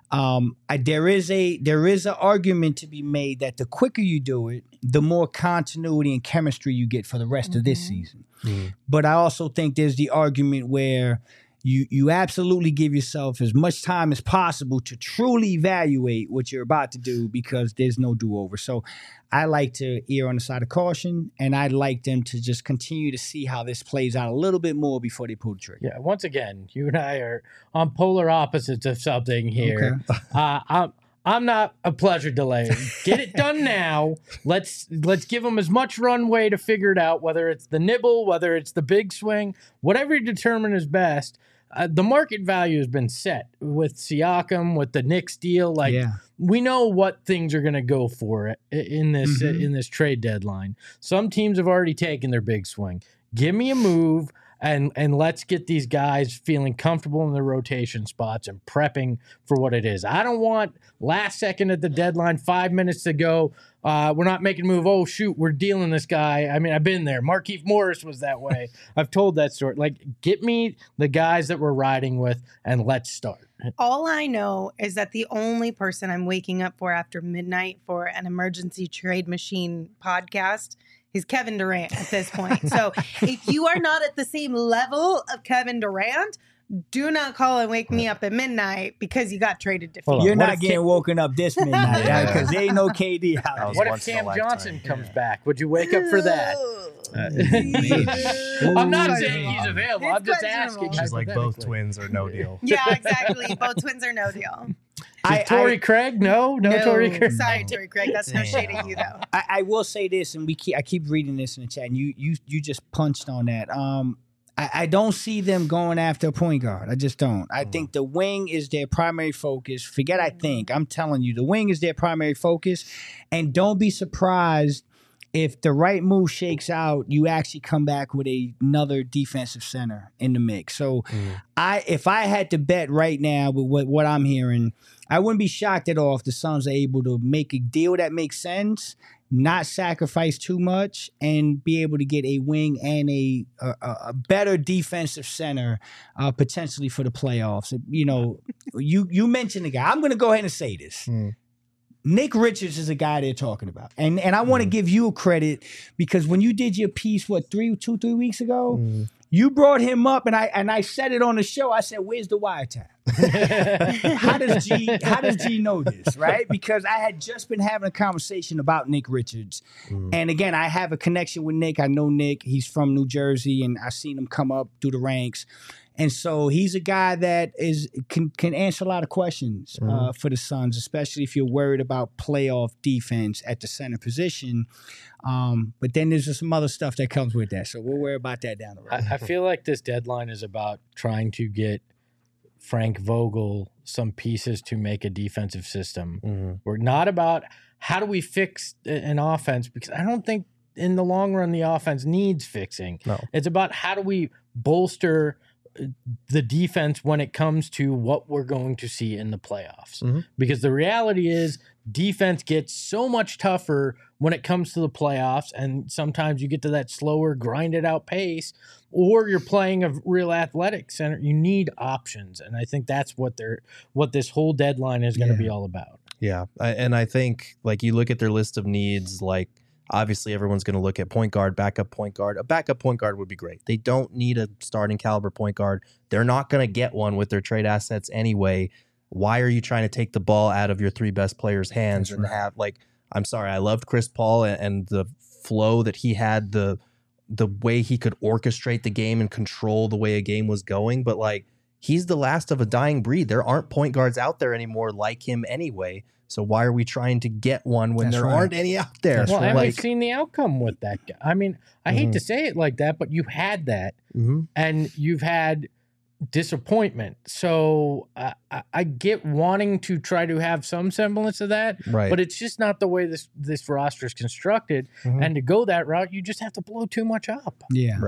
Speaker 3: there is an argument to be made that the quicker you do it, the more continuity and chemistry you get for the rest of this season. But I also think there's the argument where you absolutely give yourself as much time as possible to truly evaluate what you're about to do, because there's no do-over. So I like to err on the side of caution, and I'd like them to just continue to see how this plays out a little bit more before they pull the trigger.
Speaker 2: Yeah, once again, you and I are on polar opposites of something here. Okay. I'm not a pleasure delay. Get it done now. Let's give them as much runway to figure it out, whether it's the nibble, whether it's the big swing, whatever you determine is best. The market value has been set with Siakam, with the Knicks deal. We know what things are going to go for in this trade deadline. Some teams have already taken their big swing. Give me a move. And let's get these guys feeling comfortable in their rotation spots and prepping for what it is. I don't want last second at the deadline, 5 minutes to go, we're not making a move. Oh, shoot, we're dealing this guy. I mean, I've been there. Markieff Morris was that way. I've told that story. Get me the guys that we're riding with, and let's start.
Speaker 1: All I know is that the only person I'm waking up for after midnight for an emergency trade machine podcast is Kevin Durant at this point. So if you are not at the same level of Kevin Durant, do not call and wake me up at midnight because you got traded to Phoenix.
Speaker 3: You're not getting woken up this midnight because there ain't no KD out.
Speaker 2: What if Cam Johnson comes back? Would you wake up for that? I'm not saying he's available. I'm just asking.
Speaker 4: She's like, both twins are no deal.
Speaker 1: Yeah, exactly. Both twins are no deal.
Speaker 2: Torrey Craig? No, Torrey Craig.
Speaker 1: Sorry, Torrey Craig. That's no shade at you, though.
Speaker 3: I will say this, and I keep reading this in the chat, and you just punched on that. I don't see them going after a point guard. I just don't. I think the wing is their primary focus. Forget I think. I'm telling you, the wing is their primary focus. And don't be surprised if the right move shakes out, you actually come back with another defensive center in the mix. So if I had to bet right now with what I'm hearing, I wouldn't be shocked at all if the Suns are able to make a deal that makes sense, not sacrifice too much, and be able to get a wing and a better defensive center potentially for the playoffs. You know, you mentioned the guy. I'm going to go ahead and say this. Nick Richards is a guy they're talking about. And I want to give you credit because when you did your piece, 3 weeks ago, you brought him up and I said it on the show. I said, where's the wiretap? How does G know this, right? Because I had just been having a conversation about Nick Richards. And again, I have a connection with Nick. I know Nick. He's from New Jersey, and I've seen him come up through the ranks. And so he's a guy that can answer a lot of questions for the Suns, especially if you're worried about playoff defense at the center position. But then there's just some other stuff that comes with that. So we'll worry about that down the road.
Speaker 2: I feel like this deadline is about trying to get Frank Vogel some pieces to make a defensive system. We're not about how do we fix an offense? Because I don't think in the long run the offense needs fixing.
Speaker 4: No.
Speaker 2: It's about how do we bolster the defense when it comes to what we're going to see in the playoffs. Because the reality is defense gets so much tougher when it comes to the playoffs, and sometimes you get to that slower, grinded out pace, or you're playing a real athletic center. You need options, and I think that's what this whole deadline is going to be all about.
Speaker 4: Yeah, and I think like you look at their list of needs, like obviously everyone's going to look at point guard, backup point guard. A backup point guard would be great. They don't need a starting caliber point guard. They're not going to get one with their trade assets anyway. Why are you trying to take the ball out of your 3 best players' hands and have like? I'm sorry, I loved Chris Paul and the flow that he had, the way he could orchestrate the game and control the way a game was going. But like, he's the last of a dying breed. There aren't point guards out there anymore like him anyway. So why are we trying to get one when there aren't any out there?
Speaker 2: Well, and we've seen the outcome with that guy. I mean, I hate to say it like that, but you had that, and you've had disappointment. So I get wanting to try to have some semblance of that, but it's just not the way this roster is constructed. And to go that route, you just have to blow too much up.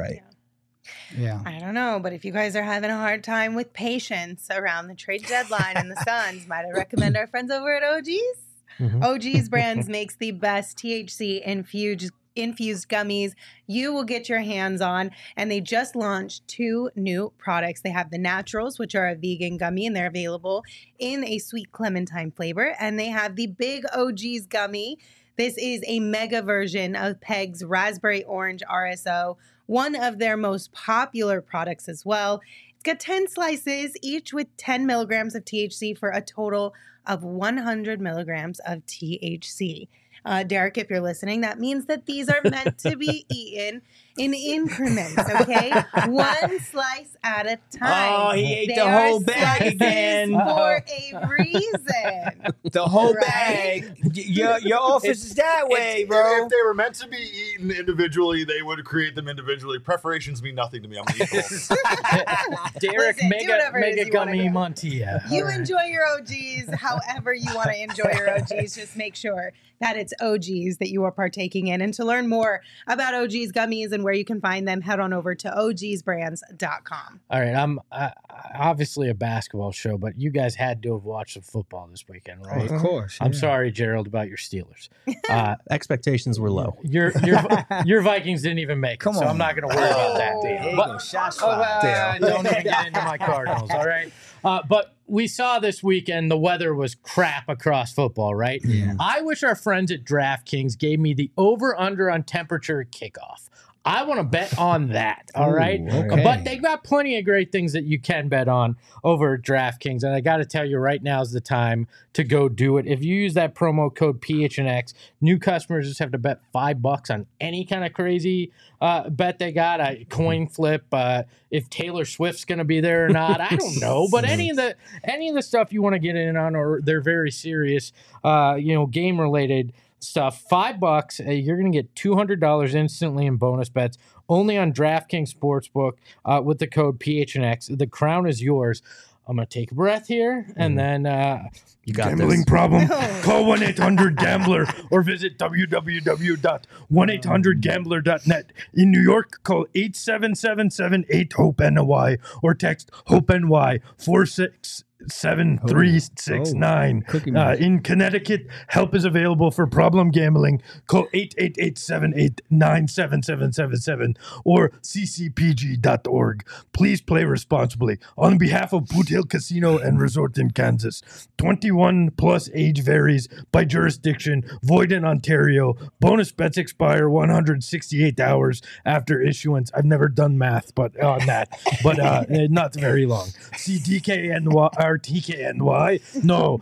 Speaker 3: Yeah.
Speaker 1: I don't know, but if you guys are having a hard time with patience around the trade deadline and the Suns, might I recommend our friends over at OG's? OG's Brands makes the best THC infused gummies you will get your hands on, and they just launched 2 new products. They have the Naturals, which are a vegan gummy, and they're available in a sweet clementine flavor, and they have the Big OG's gummy. This is a mega version of Peg's Raspberry Orange RSO, one of their most popular products as well. It's got 10 slices, each with 10 milligrams of THC for a total of 100 milligrams of THC. Derek, if you're listening, that means that these are meant to be eaten in increments, okay? 1 slice at a time.
Speaker 3: Oh, he ate the whole bag again.
Speaker 1: For a reason.
Speaker 3: The whole bag. Your office is that way, bro.
Speaker 6: If they were meant to be eaten individually, they would create them individually. Preparations mean nothing to me. I'm equal.
Speaker 2: Derek,
Speaker 1: Listen,
Speaker 2: mega gummy Montilla.
Speaker 1: You enjoy your OGs however you want to enjoy your OGs. Just make sure that it's OGs that you are partaking in. And to learn more about OGs gummies and where you can find them, head on over to ogsbrands.com.
Speaker 2: All right, I'm obviously a basketball show, but you guys had to have watched some football this weekend, right?
Speaker 3: Of course.
Speaker 2: I'm sorry, Gerald, about your Steelers.
Speaker 4: Expectations were low.
Speaker 2: Your Vikings didn't even make it, so I'm not going to worry about that.
Speaker 3: There you go. Shots fired.
Speaker 2: Don't even get into my Cardinals, all right? But we saw this weekend the weather was crap across football, right?
Speaker 3: Yeah.
Speaker 2: I wish our friends at DraftKings gave me the over-under on temperature at kickoff. I want to bet on that, all right?
Speaker 3: Okay.
Speaker 2: But they got plenty of great things that you can bet on over at DraftKings, and I got to tell you, right now is the time to go do it. If you use that promo code PHNX, new customers just have to bet $5 on any kind of crazy bet they got. A coin flip, if Taylor Swift's going to be there or not, I don't know. But any of the stuff you want to get in on, or they're very serious, game related stuff, $5, you're going to get $200 instantly in bonus bets only on DraftKings Sportsbook with the code PHNX. The crown is yours. I'm going to take a breath here, and then
Speaker 4: You got
Speaker 2: gambling
Speaker 4: this.
Speaker 2: problem? Call 1-800-GAMBLER or visit www.1800gambler.net. In New York, call 877-78-HOPE-NY or text HOPE-NY 467-369. In Connecticut, help is available for problem gambling. Call 888-78-97777 or ccpg.org. Please play responsibly. On behalf of Boot Hill Casino and Resort in Kansas, 21 plus age varies by jurisdiction, void in Ontario. Bonus bets expire 168 hours after issuance. I've never done math on that, but not very long. See DKNY. TKNY? No,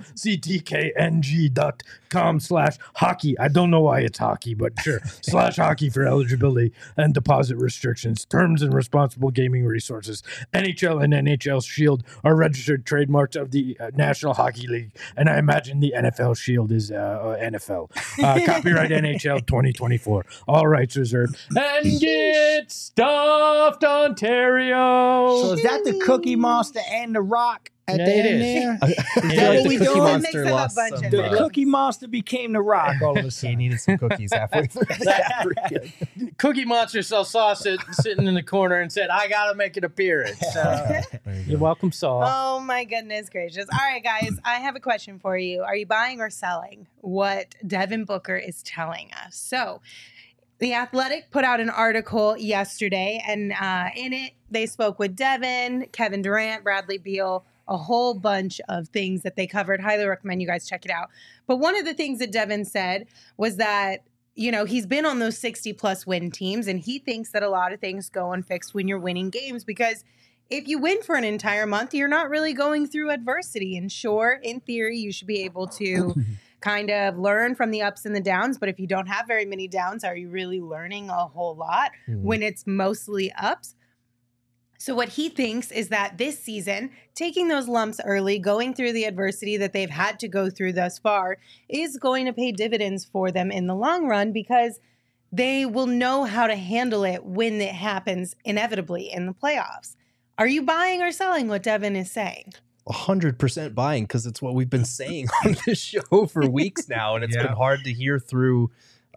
Speaker 2: ctkng.com/hockey. I don't know why it's hockey, but sure. /hockey for eligibility and deposit restrictions. Terms and responsible gaming resources. NHL and NHL Shield are registered trademarks of the National Hockey League, and I imagine the NFL Shield is NFL. Copyright NHL 2024. All rights reserved. And get stuffed, Ontario.
Speaker 3: So is that the Cookie Monster and the Rock? at
Speaker 2: Yeah,
Speaker 3: the
Speaker 2: it
Speaker 3: end
Speaker 2: is.
Speaker 3: there?
Speaker 2: Is
Speaker 3: that
Speaker 4: like
Speaker 3: what
Speaker 4: the
Speaker 3: we
Speaker 4: Cookie
Speaker 3: doing?
Speaker 4: Monster
Speaker 1: Mix it up
Speaker 4: lost
Speaker 1: a bunch
Speaker 4: some,
Speaker 1: of
Speaker 3: The
Speaker 1: things.
Speaker 3: Cookie Monster became the Rock all of a
Speaker 4: He
Speaker 3: sudden.
Speaker 4: needed some cookies halfway through that.
Speaker 2: Cookie Monster saw Saw sitting in the corner and said, "I gotta make an appearance." You're welcome, Saw.
Speaker 1: Oh my goodness gracious. All right, guys, I have a question for you. Are you buying or selling what Devin Booker is telling us? So, The Athletic put out an article yesterday, and in it, they spoke with Devin, Kevin Durant, Bradley Beal, a whole bunch of things that they covered. Highly recommend you guys check it out. But one of the things that Devin said was that, you know, he's been on those 60-plus win teams, and he thinks that a lot of things go unfixed when you're winning games because if you win for an entire month, you're not really going through adversity. And sure, in theory, you should be able to kind of learn from the ups and the downs. But if you don't have very many downs, are you really learning a whole lot when it's mostly ups? So what he thinks is that this season, taking those lumps early, going through the adversity that they've had to go through thus far, is going to pay dividends for them in the long run because they will know how to handle it when it happens inevitably in the playoffs. Are you buying or selling what Devin is saying?
Speaker 4: 100% buying because it's what we've been saying on this show for weeks now, and it's been hard to hear through.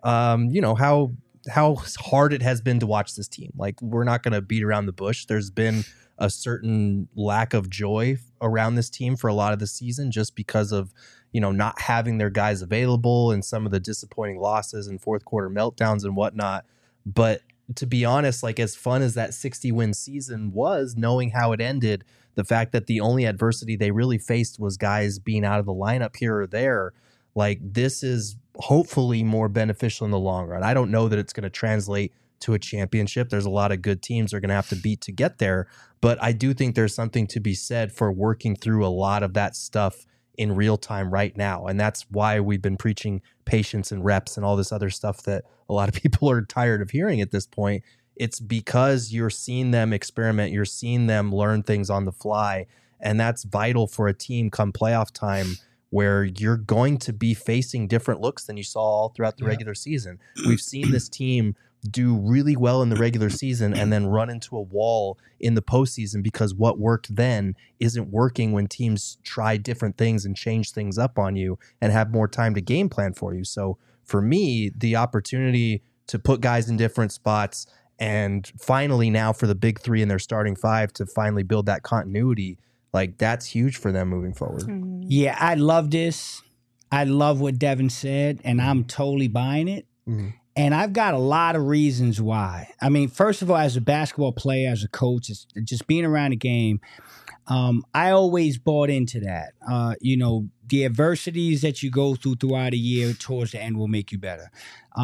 Speaker 4: How hard it has been to watch this team. Like, we're not going to beat around the bush. There's been a certain lack of joy around this team for a lot of the season, just because of not having their guys available and some of the disappointing losses and fourth quarter meltdowns and whatnot. But to be honest, like, as fun as that 60-win season was, knowing how it ended, the fact that the only adversity they really faced was guys being out of the lineup here or there, like, this is hopefully more beneficial in the long run. I don't know that it's going to translate to a championship. There's a lot of good teams they're going to have to beat to get there, but I do think there's something to be said for working through a lot of that stuff in real time right now. And that's why we've been preaching patience and reps and all this other stuff that a lot of people are tired of hearing at this point. It's because you're seeing them experiment, you're seeing them learn things on the fly, and that's vital for a team come playoff time where you're going to be facing different looks than you saw all throughout the regular season. We've seen this team do really well in the regular season and then run into a wall in the postseason because what worked then isn't working when teams try different things and change things up on you and have more time to game plan for you. So for me, the opportunity to put guys in different spots and finally now for the big three in their starting five to finally build that continuity, like, that's huge for them moving forward.
Speaker 3: Yeah, I love this. I love what Devin said, and I'm totally buying it. And I've got a lot of reasons why. I mean, first of all, as a basketball player, as a coach, it's just being around the game, I always bought into that. The adversities that you go throughout a year towards the end will make you better.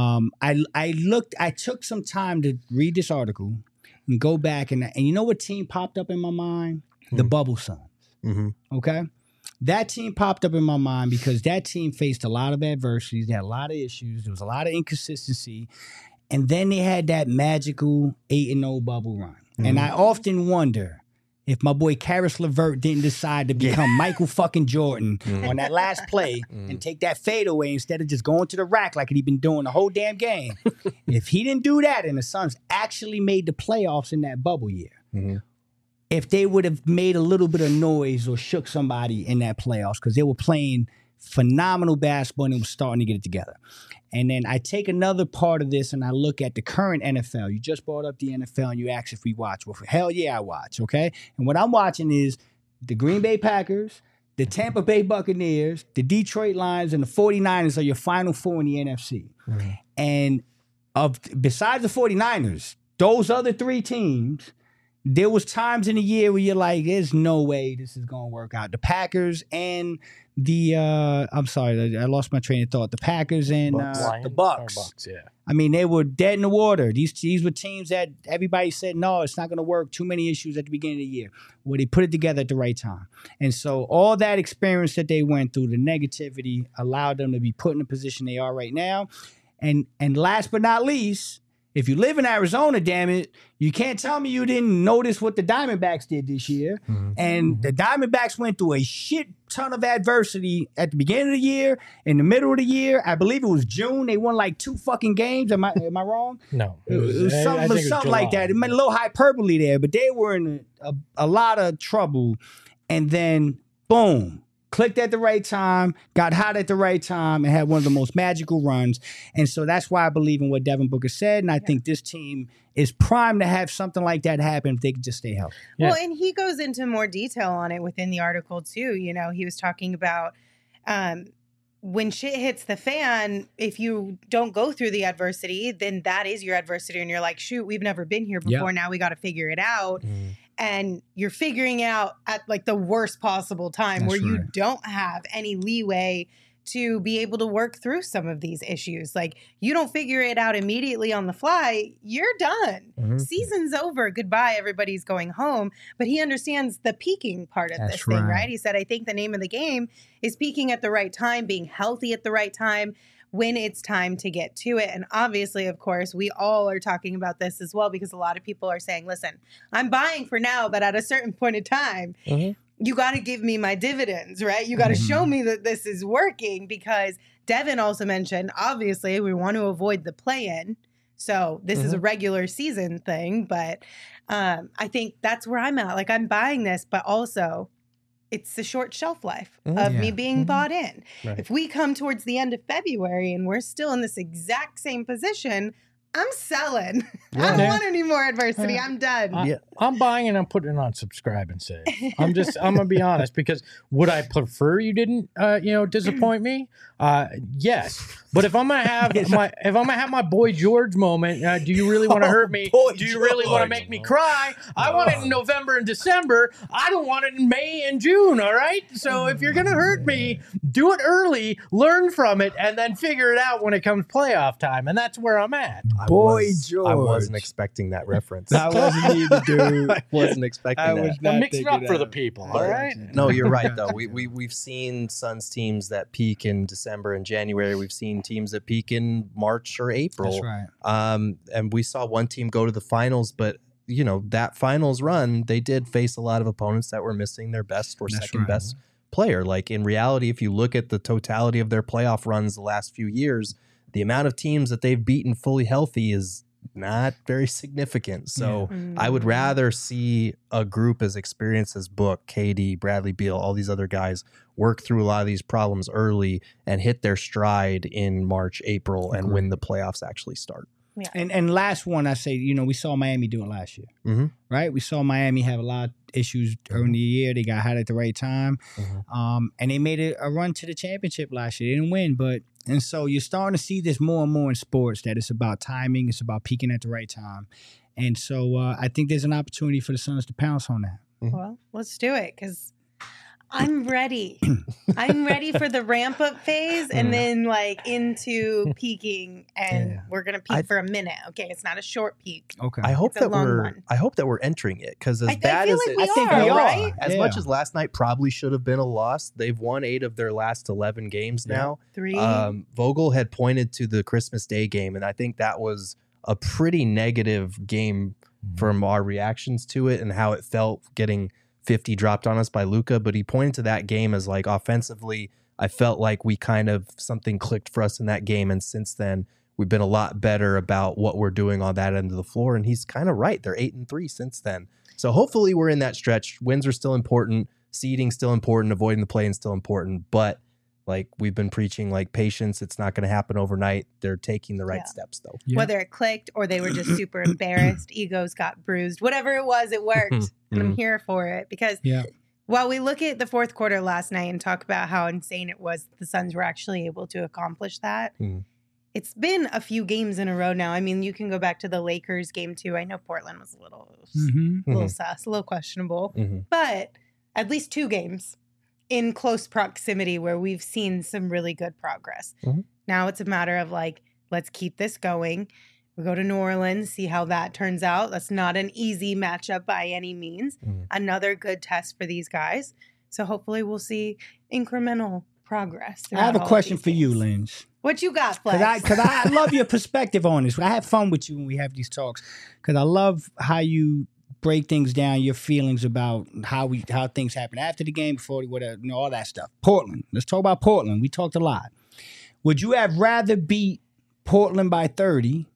Speaker 3: I took some time to read this article and go back, and you know what team popped up in my mind? The Bubble Suns. Okay? That team popped up in my mind because that team faced a lot of adversities. They had a lot of issues. There was a lot of inconsistency. And then they had that magical 8-0 bubble run. And I often wonder if my boy Karis LeVert didn't decide to become Michael fucking Jordan on that last play and take that fadeaway instead of just going to the rack like he'd been doing the whole damn game. If he didn't do that and the Suns actually made the playoffs in that bubble year, if they would have made a little bit of noise or shook somebody in that playoffs because they were playing phenomenal basketball and they were starting to get it together. And then I take another part of this and I look at the current NFL. You just brought up the NFL and you asked if we watch. Well, hell yeah, I watch, okay? And what I'm watching is the Green Bay Packers, the Tampa Bay Buccaneers, the Detroit Lions, and the 49ers are your final four in the NFC. And besides the 49ers, those other three teams, there was times in the year where you're like, there's no way this is going to work out. The Packers and the, I'm sorry, I lost my train of thought. The Packers and the Bucks.
Speaker 2: Yeah.
Speaker 3: I mean, they were dead in the water. These were teams that everybody said, no, it's not going to work. Too many issues at the beginning of the year. Well, they put it together at the right time. And so all that experience that they went through, the negativity, allowed them to be put in the position they are right now. And last but not least, if you live in Arizona, damn it, you can't tell me you didn't notice what the Diamondbacks did this year. And the Diamondbacks went through a shit ton of adversity at the beginning of the year, in the middle of the year. I believe it was June. They won like 2 fucking games. Am I wrong?
Speaker 2: No.
Speaker 3: It was something like that. It meant a little hyperbole there, but they were in a lot of trouble. and then boom, clicked at the right time, got hot at the right time, and had one of the most magical runs. And so that's why I believe in what Devin Booker said, and I think this team is primed to have something like that happen if they can just stay healthy.
Speaker 2: Yeah.
Speaker 1: Well, and he goes into more detail on it within the article too. You know, he was talking about when shit hits the fan, if you don't go through the adversity, then that is your adversity. And you're like, shoot, we've never been here before. Now we got to figure it out. And you're figuring it out at like the worst possible time where you don't have any leeway to be able to work through some of these issues. Like, you don't figure it out immediately on the fly, you're done. Season's over. Goodbye. Everybody's going home. But he understands the peaking part of this thing, right? He said, I think the name of the game is peaking at the right time, being healthy at the right time when it's time to get to it. And obviously, of course, we all are talking about this as well, because a lot of people are saying, listen, I'm buying for now, but at a certain point in time, you got to give me my dividends, right? You got to show me that this is working, because Devin also mentioned, obviously, we want to avoid the play-in. So this is a regular season thing, but I think that's where I'm at. Like, I'm buying this, but also it's the short shelf life of me being bought in. If we come towards the end of February and we're still in this exact same position, I'm selling. I don't want any more adversity. I'm done.
Speaker 2: I'm buying and I'm putting it on subscribe and save. I'm gonna be honest, because would I prefer you didn't disappoint me? Yes. But if I'm gonna have my Boy George moment, do you really want to hurt me? Do you really want to make me cry? I want it in November and December. I don't want it in May and June, all right? So if you're gonna hurt me, do it early, learn from it, and then figure it out when it comes playoff time. And that's where I'm at.
Speaker 4: George. I wasn't expecting that reference.
Speaker 3: I wasn't either, dude.
Speaker 4: I wasn't expecting that.
Speaker 2: I'm mixing up for the people, all right?
Speaker 4: No, you're right, though. We've seen Suns teams that peak in December and January. We've seen teams that peak in March or April.
Speaker 3: That's right.
Speaker 4: And we saw one team go to the finals, but that finals run, they did face a lot of opponents that were missing their best or second best player. Like, in reality, if you look at the totality of their playoff runs the last few years, the amount of teams that they've beaten fully healthy is not very significant. So I would rather see a group as experienced as Book, KD, Bradley Beal, all these other guys work through a lot of these problems early and hit their stride in March, April, and when the playoffs actually start.
Speaker 1: Yeah.
Speaker 3: And last one, I say, we saw Miami do it last year, right? We saw Miami have a lot of issues during the year. They got hot at the right time, and they made a run to the championship last year. They didn't win, and so you're starting to see this more and more in sports, that it's about timing, it's about peaking at the right time. And so I think there's an opportunity for the Suns to pounce on that.
Speaker 1: Well, let's do it, because I'm ready. I'm ready for the ramp up phase and then into peaking, and we're gonna peak for a minute. Okay, it's not a short peak.
Speaker 3: Okay.
Speaker 4: I hope that we're entering it, because as bad as
Speaker 1: I think we are. Right?
Speaker 4: As much as last night probably should have been a loss, they've won 8 of their last 11 games now.
Speaker 1: 3.
Speaker 4: Vogel had pointed to the Christmas Day game, and I think that was a pretty negative game from our reactions to it and how it felt getting 50 dropped on us by Luka, but he pointed to that game as like, offensively, I felt like we kind of, something clicked for us in that game, and since then we've been a lot better about what we're doing on that end of the floor, and he's kind of right. They're 8-3 since then. So hopefully we're in that stretch. Wins are still important, seeding still important, avoiding the play-in still important, but like we've been preaching, like, patience, it's not going to happen overnight. They're taking the right steps, though.
Speaker 1: Yeah. Whether it clicked or they were just super embarrassed, egos got bruised, whatever it was, it worked. And I'm here for it, because while we look at the fourth quarter last night and talk about how insane it was, the Suns were actually able to accomplish that. It's been a few games in a row now. I mean, you can go back to the Lakers game too. I know Portland was a little sus, a little questionable, but at least 2 games in close proximity where we've seen some really good progress. Now it's a matter of let's keep this going. We go to New Orleans, see how that turns out. That's not an easy matchup by any means. Another good test for these guys. So hopefully we'll see incremental progress.
Speaker 3: I have a question for you, Linz.
Speaker 1: What you got, Flex?
Speaker 3: Because I love your perspective on this. I have fun with you when we have these talks, because I love how you break things down, your feelings about how things happen after the game, before, whatever, all that stuff. Portland. Let's talk about Portland. We talked a lot. Would you have rather beat Portland by 30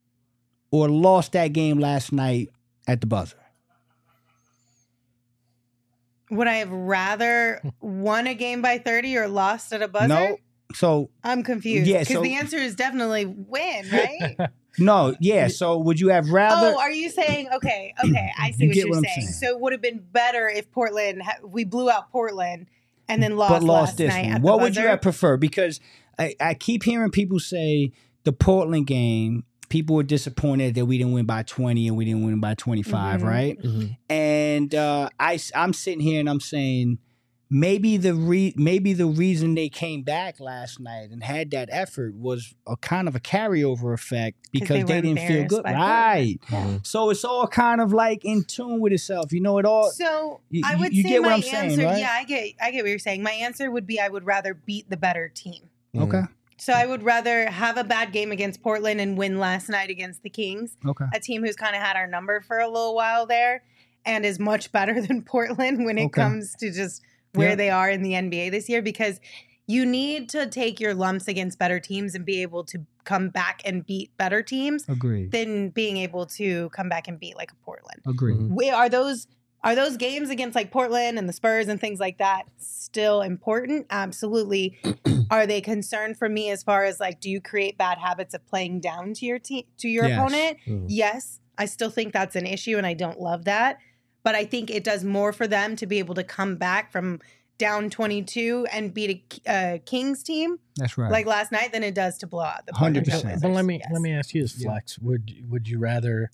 Speaker 3: or lost that game last night at the buzzer?
Speaker 1: Would I have rather won a game by 30 or lost at a buzzer?
Speaker 3: No. So
Speaker 1: I'm confused.
Speaker 3: Yeah,
Speaker 1: Because
Speaker 3: so-
Speaker 1: the answer is definitely win, right?
Speaker 3: no, yeah. So would you have rather?
Speaker 1: Oh, are you saying, okay, I see
Speaker 3: You
Speaker 1: what
Speaker 3: get
Speaker 1: you're
Speaker 3: what I'm
Speaker 1: saying.
Speaker 3: saying.
Speaker 1: So it would have been better if we blew out Portland and then lost
Speaker 3: but lost
Speaker 1: last
Speaker 3: this
Speaker 1: night
Speaker 3: one.
Speaker 1: at the
Speaker 3: What would you
Speaker 1: buzzer?
Speaker 3: have preferred? Because I keep hearing people say the Portland game, people were disappointed that we didn't win by 20 and we didn't win by 25,
Speaker 1: Mhm.
Speaker 3: right?
Speaker 2: Mhm.
Speaker 3: And I'm sitting here and I'm saying maybe the reason they came back last night and had that effort was a kind of a carryover effect because
Speaker 1: they
Speaker 3: they
Speaker 1: were
Speaker 3: didn't feel
Speaker 1: embarrassed
Speaker 3: good,
Speaker 1: by
Speaker 3: right?
Speaker 2: Mhm.
Speaker 3: So it's all kind of like in tune with itself. You know, it all.
Speaker 1: So
Speaker 3: You-
Speaker 1: I would
Speaker 3: you
Speaker 1: say
Speaker 3: get what
Speaker 1: my
Speaker 3: I'm saying,
Speaker 1: answer,
Speaker 3: right?
Speaker 1: yeah, I get what you're saying. My answer would be I would rather beat the better team.
Speaker 3: Okay.
Speaker 1: So I would rather have a bad game against Portland and win last night against the Kings,
Speaker 3: Okay.
Speaker 1: a team who's kind of had our number for a little while there and is much better than Portland when it
Speaker 3: Okay.
Speaker 1: comes to just where
Speaker 3: Yeah.
Speaker 1: they are in the NBA this year, because you need to take your lumps against better teams and be able to come back and beat better teams
Speaker 3: Agreed.
Speaker 1: than being able to come back and beat like a Portland.
Speaker 3: Agreed.
Speaker 2: Mhm.
Speaker 1: Are those games against like Portland and the Spurs and things like that still important? Absolutely. Are they concerned for me as far as like, do you create bad habits of playing down to your team, to your
Speaker 3: Yes.
Speaker 1: opponent?
Speaker 2: Mhm.
Speaker 1: Yes, I still think that's an issue and I don't love that. But I think it does more for them to be able to come back from down 22 and beat a Kings team
Speaker 3: That's right.
Speaker 1: like last night than it does to blow out the Portland
Speaker 3: 100%.
Speaker 1: Trail
Speaker 2: But
Speaker 1: Blazers.
Speaker 2: let me ask you this,
Speaker 3: Yeah.
Speaker 2: Flex. Would you rather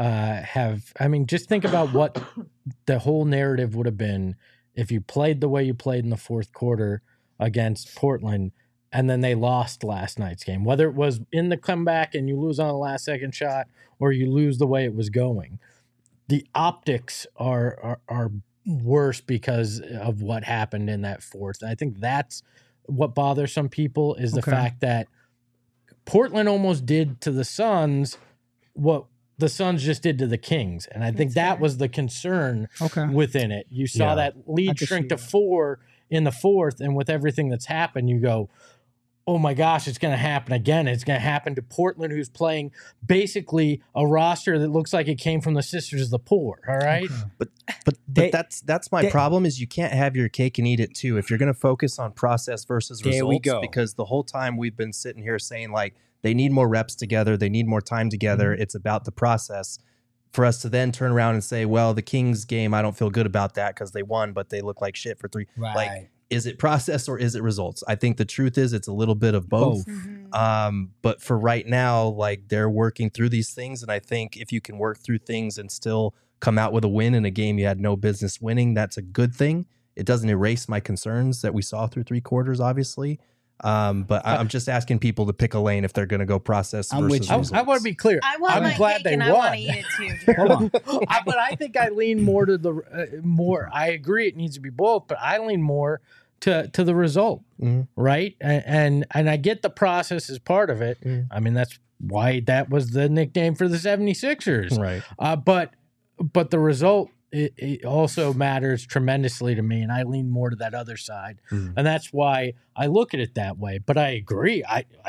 Speaker 2: have? I mean, just think about what the whole narrative would have been if you played the way you played in the fourth quarter against Portland, and then they lost last night's game. Whether it was in the comeback and you lose on a last second shot, or you lose the way it was going, the optics are worse because of what happened in that fourth. And I think that's what bothers some people is the
Speaker 3: Okay.
Speaker 2: fact that Portland almost did to the Suns what the Suns just did to the Kings. And I think
Speaker 1: That's
Speaker 2: that
Speaker 1: fair.
Speaker 2: was the concern
Speaker 3: Okay.
Speaker 2: within it. You saw
Speaker 4: Yeah.
Speaker 2: that
Speaker 3: I
Speaker 2: lead
Speaker 3: can
Speaker 2: shrink
Speaker 3: see
Speaker 2: to
Speaker 3: that.
Speaker 2: 4 in the fourth, and with everything that's happened, you go, oh my gosh, it's going to happen again. It's going to happen to Portland, who's playing basically a roster that looks like it came from the Sisters of the Poor. All right.
Speaker 4: But
Speaker 3: They-
Speaker 4: that's my
Speaker 3: they-
Speaker 4: problem is you can't have your cake and eat it too. If you're going to focus on process versus
Speaker 3: There we
Speaker 4: results,
Speaker 3: go.
Speaker 4: because the whole time we've been sitting here saying like they need more reps together, they need more time together.
Speaker 3: Mm-hmm.
Speaker 4: It's about the process. For us to then turn around and say, well, the Kings game, I don't feel good about that because they won, but they look like shit for 3.
Speaker 3: Right.
Speaker 4: Like, is it process or is it results? I think the truth is it's a little bit of both.
Speaker 1: Mhm.
Speaker 4: But for right now, like they're working through these things. And I think if you can work through things and still come out with a win in a game you had no business winning, that's a good thing. It doesn't erase my concerns that we saw through 3 quarters, obviously. But I'm just asking people to pick a lane if they're going to go process
Speaker 3: I'm with
Speaker 4: versus
Speaker 3: you.
Speaker 4: results.
Speaker 2: I want to be clear.
Speaker 1: I want
Speaker 2: I'm
Speaker 1: my
Speaker 2: glad
Speaker 1: cake
Speaker 2: they
Speaker 1: and I want
Speaker 2: won.
Speaker 1: to eat it too.
Speaker 3: Hold on.
Speaker 2: But I think I lean more to the more. I agree, it needs to be both, but I lean more to the result,
Speaker 4: Mhm.
Speaker 2: right? And I get the process is part of it.
Speaker 4: Mhm.
Speaker 2: I mean, that's why that was the nickname for the 76ers.
Speaker 4: Right.
Speaker 2: But the result it also matters tremendously to me, and I lean more to that other side,
Speaker 4: Mhm.
Speaker 2: and that's why I look at it that way. But I agree.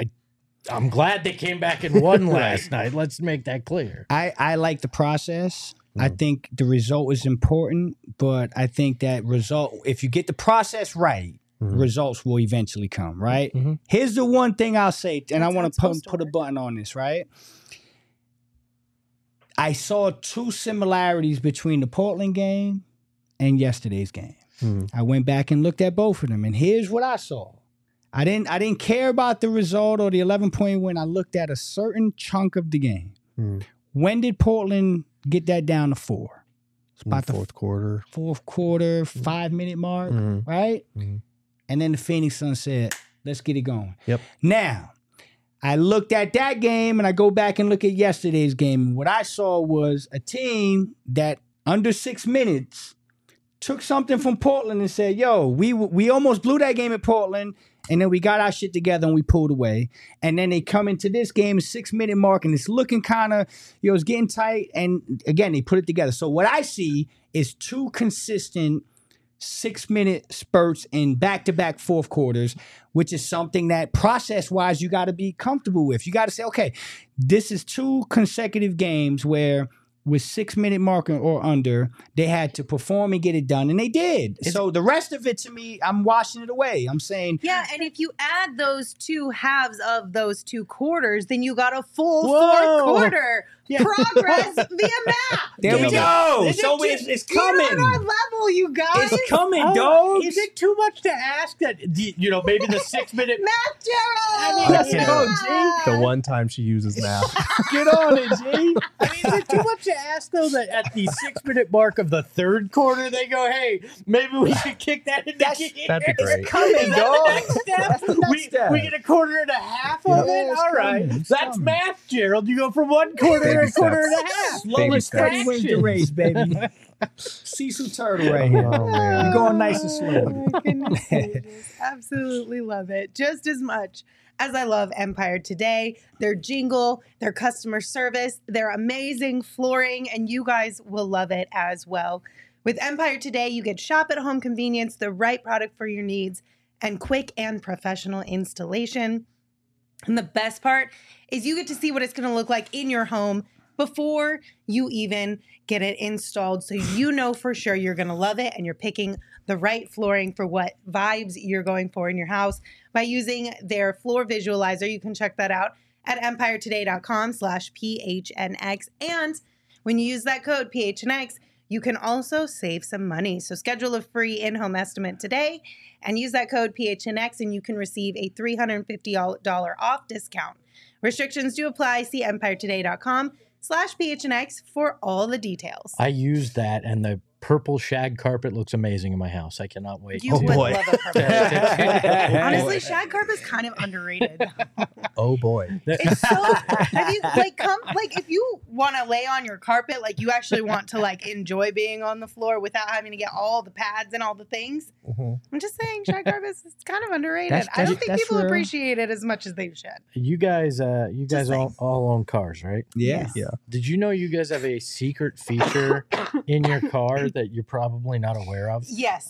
Speaker 2: I'm glad they came back and won last night. Let's make that clear.
Speaker 3: I like the process. I
Speaker 4: Mhm.
Speaker 3: think the result is important, but I think that result, if you get the process right,
Speaker 4: Mhm.
Speaker 3: results will eventually come, right?
Speaker 4: Mhm.
Speaker 3: Here's the one thing I'll say, and I
Speaker 1: That's how
Speaker 3: want
Speaker 1: it's
Speaker 3: to
Speaker 1: supposed to
Speaker 3: put a
Speaker 1: work.
Speaker 3: button on this, right? I saw 2 similarities between the Portland game and yesterday's game.
Speaker 4: Mhm.
Speaker 3: I went back and looked at both of them, and here's what I saw. I didn't care about the result or the 11-point win. I looked at a certain chunk of the game.
Speaker 4: Mhm.
Speaker 3: When did Portland get that down to 4? It's
Speaker 4: In the
Speaker 3: about the
Speaker 4: fourth quarter.
Speaker 3: fourth quarter, 5-minute mark,
Speaker 4: Mhm.
Speaker 3: right?
Speaker 4: Mhm.
Speaker 3: And then the Phoenix Suns said, let's get it going.
Speaker 4: Yep.
Speaker 3: Now, I looked at that game and I go back and look at yesterday's game. And what I saw was a team that under 6 minutes took something from Portland and said, yo, we almost blew that game at Portland. And then we got our shit together and we pulled away. And then they come into this game, 6-minute mark, and it's looking kind of, it's getting tight. And again, they put it together. So what I see is 2 consistent 6-minute spurts in back-to-back fourth quarters, which is something that process-wise you got to be comfortable with. You got to say, okay, this is 2 consecutive games where with 6-minute mark or under, they had to perform and get it done, and they did. So the rest of it, to me, I'm washing it away. I'm saying,
Speaker 1: Yeah, and if you add those two halves of those two quarters, then you got a full
Speaker 2: Whoa.
Speaker 1: 4 quarter progress via math.
Speaker 3: there we go.
Speaker 2: Is it
Speaker 3: So
Speaker 2: just-
Speaker 3: it's
Speaker 1: You're on
Speaker 3: coming.
Speaker 1: our level, you guys.
Speaker 3: It's coming,
Speaker 2: Oh,
Speaker 3: dogs.
Speaker 2: is it too much to ask that, maybe the 6-minute...
Speaker 1: Math, Gerald.
Speaker 2: I mean,
Speaker 3: Let's
Speaker 2: Yeah.
Speaker 3: go,
Speaker 1: Math.
Speaker 3: G.
Speaker 4: The one time she uses math.
Speaker 3: Get on it, G.
Speaker 2: I mean, is it too much to ask, though, that at the 6-minute mark of the third quarter, they go, hey, maybe we should kick that into gear?
Speaker 4: That'd be great.
Speaker 3: Coming,
Speaker 2: Is that
Speaker 3: dog.
Speaker 2: the next step?
Speaker 3: That's the next
Speaker 2: we,
Speaker 3: step.
Speaker 2: we get a quarter and a half of
Speaker 3: Yeah,
Speaker 2: it?
Speaker 3: it's
Speaker 2: All right.
Speaker 3: coming. It's
Speaker 2: That's
Speaker 3: coming.
Speaker 2: math, Gerald. You go from 1 quarter to
Speaker 4: Baby
Speaker 2: a quarter
Speaker 4: steps.
Speaker 2: and a half.
Speaker 3: Slow
Speaker 4: Baby
Speaker 3: and steady
Speaker 2: steps.
Speaker 3: wins the race, baby. Cecil Turtle right here.
Speaker 4: Oh, man.
Speaker 3: You're going nice and
Speaker 1: Oh,
Speaker 3: slow.
Speaker 1: my goodness gracious. Absolutely love it. Just as much as I love Empire Today, their jingle, their customer service, their amazing flooring, and you guys will love it as well. With Empire Today, you get shop at home convenience, the right product for your needs, and quick and professional installation. And the best part is you get to see what it's going to look like in your home before you even get it installed. So you know for sure you're going to love it and you're picking the right flooring for what vibes you're going for in your house by using their floor visualizer. You can check that out at empiretoday.com/PHNX. And when you use that code PHNX, you can also save some money. So schedule a free in-home estimate today and use that code PHNX and you can receive a $350 off discount. Restrictions do apply. See empiretoday.com/PHNX for all the details.
Speaker 2: I used that, and the purple shag carpet looks amazing in my house. I cannot wait.
Speaker 1: You
Speaker 2: to-
Speaker 1: would
Speaker 4: boy.
Speaker 1: love a purple. Honestly, shag carpet is kind of underrated.
Speaker 4: Oh boy.
Speaker 1: It's so have you if you want to lay on your carpet, like you actually want to like enjoy being on the floor without having to get all the pads and all the things.
Speaker 4: Mhm.
Speaker 1: I'm just saying, shag carpet is kind of underrated.
Speaker 3: That's-
Speaker 1: I don't think
Speaker 3: that's
Speaker 1: people
Speaker 3: real.
Speaker 1: appreciate it as much as they should.
Speaker 2: You guys
Speaker 1: saying.
Speaker 2: all own cars, right?
Speaker 3: Yeah.
Speaker 4: Yeah.
Speaker 2: Did you know you guys have a secret feature in your car that you're probably not aware of?
Speaker 1: Yes.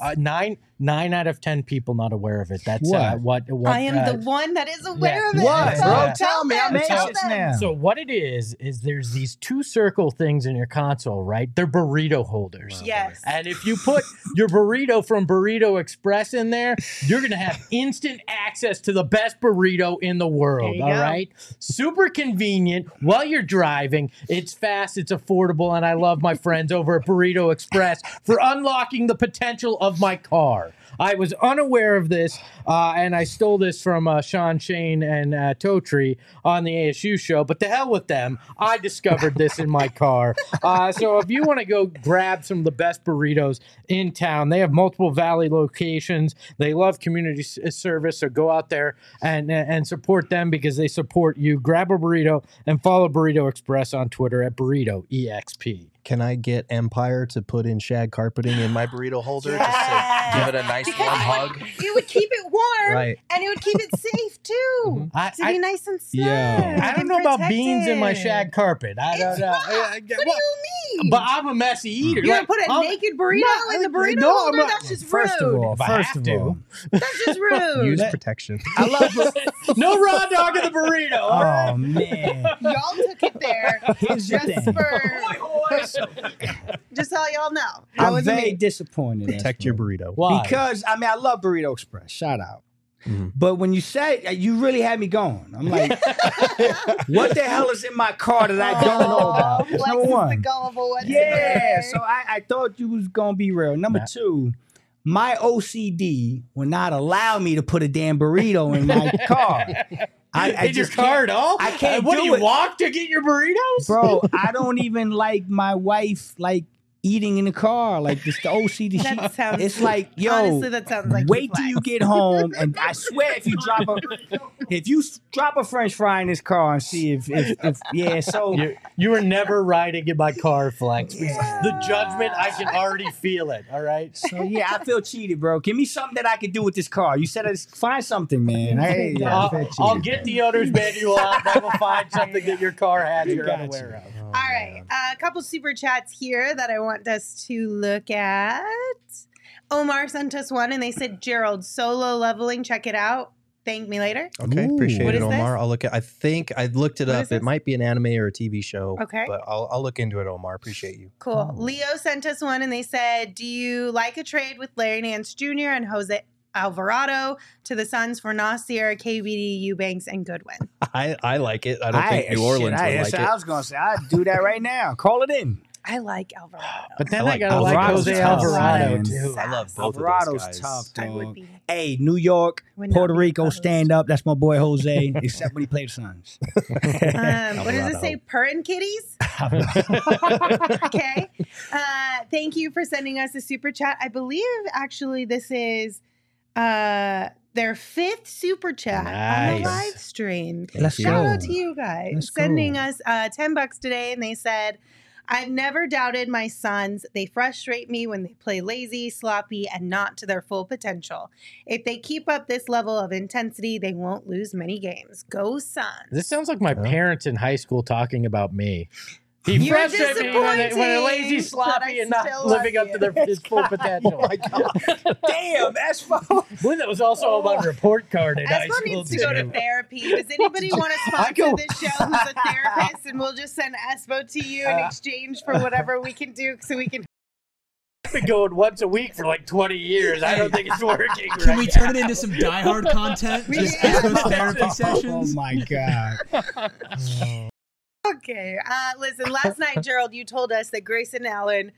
Speaker 2: 9 out of 10 people not aware of it. That's what
Speaker 1: I am the one that is aware of it.
Speaker 3: What,
Speaker 1: So
Speaker 3: bro?
Speaker 1: tell
Speaker 3: me. I'm
Speaker 1: them, tell
Speaker 3: anxious
Speaker 1: them.
Speaker 3: now.
Speaker 2: So what it is there's these 2 circle things in your console, right? They're burrito holders.
Speaker 1: Yes.
Speaker 2: And if you put your burrito from Burrito Express in there, you're going to have instant access to the best burrito in the world.
Speaker 1: There you
Speaker 2: All
Speaker 1: go.
Speaker 2: right. Super convenient while you're driving. It's fast, it's affordable, and I love my friends over at Burrito Express for unlocking the potential of my car. I was unaware of this, and I stole this from Sean Shane and Totri on the ASU show, but to hell with them. I discovered this in my car. So if you want to go grab some of the best burritos in town, they have multiple Valley locations. They love community service, so go out there and support them because they support you. Grab a burrito and follow Burrito Express on Twitter at BurritoEXP.
Speaker 4: Can I get Empire to put in shag carpeting in my burrito holder just to give it a nice
Speaker 1: Because
Speaker 4: warm hug?
Speaker 1: it would keep it warm,
Speaker 4: Right.
Speaker 1: and it would keep it safe too.
Speaker 2: I-
Speaker 1: To be nice and snug.
Speaker 2: I don't
Speaker 1: and
Speaker 2: know about beans in my
Speaker 1: protected.
Speaker 2: shag carpet. I don't
Speaker 1: It's
Speaker 2: know.
Speaker 1: rough. What do you mean?
Speaker 2: But I'm a messy eater.
Speaker 1: You're
Speaker 2: Like,
Speaker 1: gonna put a
Speaker 2: I'm-
Speaker 1: naked burrito
Speaker 2: No,
Speaker 1: in the burrito
Speaker 2: no, I'm
Speaker 1: holder?
Speaker 2: not-
Speaker 1: That's just rude.
Speaker 3: First of all,
Speaker 2: If I
Speaker 3: first
Speaker 2: have
Speaker 3: of
Speaker 2: to.
Speaker 3: all,
Speaker 1: That's just rude.
Speaker 4: Use protection.
Speaker 3: I love
Speaker 2: No raw dog in the burrito. all right?
Speaker 3: Oh man.
Speaker 1: Y'all took it there
Speaker 3: Here's the
Speaker 1: just
Speaker 3: thing.
Speaker 1: just so y'all know. That
Speaker 3: I'm
Speaker 1: wasn't
Speaker 3: very
Speaker 1: me.
Speaker 3: disappointed.
Speaker 4: Protect your burrito.
Speaker 2: Why?
Speaker 3: Because I mean I love Burrito Express. Shout out.
Speaker 4: Mhm.
Speaker 3: But when you said you really had me going, I'm like, what the hell is in my car that I don't know about? That's
Speaker 1: Flex
Speaker 3: number
Speaker 1: is the
Speaker 3: one.
Speaker 1: gullible one
Speaker 3: Yeah,
Speaker 1: today.
Speaker 3: so I thought you was gonna be real. Number
Speaker 2: Matt.
Speaker 3: 2, my OCD will not allow me to put a damn burrito in my car. I
Speaker 2: in your
Speaker 3: just
Speaker 2: car
Speaker 3: can't-
Speaker 2: at all?
Speaker 3: I can't
Speaker 2: What
Speaker 3: do
Speaker 2: do you
Speaker 3: it.
Speaker 2: walk to get your burritos?
Speaker 3: Bro, I don't even like my wife like eating in the car. Like this the OCD.
Speaker 1: That sounds-
Speaker 3: It's like, yo,
Speaker 1: honestly, that sounds like
Speaker 3: wait
Speaker 1: you
Speaker 3: till you
Speaker 1: flex.
Speaker 3: get home, and I swear if you drop a French fry in this car and see if yeah. So
Speaker 2: You were never riding in my car, Flex. The judgment, I can already feel it. All right.
Speaker 3: so yeah, I feel cheated, bro. Give me something that I could do with this car. You said find something, man. I feel cheated,
Speaker 2: I'll get the owner's manual out. Then we'll find something that your car has you're
Speaker 3: Gotcha.
Speaker 2: unaware of.
Speaker 1: All right, a couple super chats here that I want us to look at. Omar sent us one and they said, Gerald, solo leveling, check it out. Thank Me Later.
Speaker 4: Okay,
Speaker 3: Ooh.
Speaker 4: appreciate
Speaker 1: What
Speaker 4: it,
Speaker 1: is
Speaker 4: Omar.
Speaker 1: this?
Speaker 4: I'll look at. I think I looked it
Speaker 1: What
Speaker 4: up.
Speaker 1: is this?
Speaker 4: It might be an anime or a TV show.
Speaker 1: Okay.
Speaker 4: but I'll look into it, Omar. Appreciate you.
Speaker 1: Cool. Leo sent us one and they said, do you like a trade with Larry Nance Jr. and Jose Alvarado to the Suns for Nasir, KBD, Eubanks, and Goodwin?
Speaker 4: I like it. I don't think New Orleans would like it.
Speaker 3: I was going to say, I'd do that right now. Call it in.
Speaker 1: I like Alvarado.
Speaker 2: But then
Speaker 4: I
Speaker 2: I,
Speaker 4: like
Speaker 2: gotta like
Speaker 3: Alvarado's
Speaker 2: Jose
Speaker 3: tough,
Speaker 2: Alvarado
Speaker 3: man.
Speaker 2: too.
Speaker 4: I love both
Speaker 3: Alvarado's
Speaker 4: of those guys.
Speaker 3: tough,
Speaker 1: I would
Speaker 3: dog.
Speaker 1: be.
Speaker 3: Hey, New York,
Speaker 1: Would not
Speaker 3: Puerto
Speaker 1: be
Speaker 3: Rico,
Speaker 1: opposed.
Speaker 3: stand up. That's my boy Jose, except when he played the Suns.
Speaker 1: What does it
Speaker 4: Alvarado.
Speaker 1: say? Purrin' kitties? Okay. Thank you for sending us a super chat. I believe actually this is their 5th super chat on the
Speaker 2: Nice.
Speaker 1: live stream.
Speaker 3: Let's
Speaker 1: Shout
Speaker 3: go.
Speaker 1: out to you guys
Speaker 3: Let's
Speaker 1: sending
Speaker 3: go.
Speaker 1: us $10 today, and they said, I've never doubted my Suns. They frustrate me when they play lazy, sloppy, and not to their full potential. If they keep up this level of intensity, they won't lose many games. Go Suns.
Speaker 2: This sounds like my parents in high school talking about me. He
Speaker 1: You're
Speaker 2: frustrates me when they're lazy,
Speaker 1: disappointing,
Speaker 2: sloppy,
Speaker 1: but I
Speaker 2: and not
Speaker 1: still
Speaker 2: living
Speaker 1: love
Speaker 2: up to their his full potential.
Speaker 3: Damn, that's fun.
Speaker 2: Boy, that was also on my report card in high
Speaker 1: Espo
Speaker 2: school.
Speaker 1: needs to go to
Speaker 2: too.
Speaker 1: therapy. Does anybody want to sponsor this show who's a therapist? And we'll just send Espo to you in exchange for whatever we can do so we can.
Speaker 2: I've been going once a week for like 20 years. I don't think it's working.
Speaker 7: Can we turn it into some Die Hard content? Just Espo's therapy
Speaker 3: Oh
Speaker 7: sessions?
Speaker 3: my God.
Speaker 1: Okay. Listen, last night, Gerald, you told us that Grayson Allen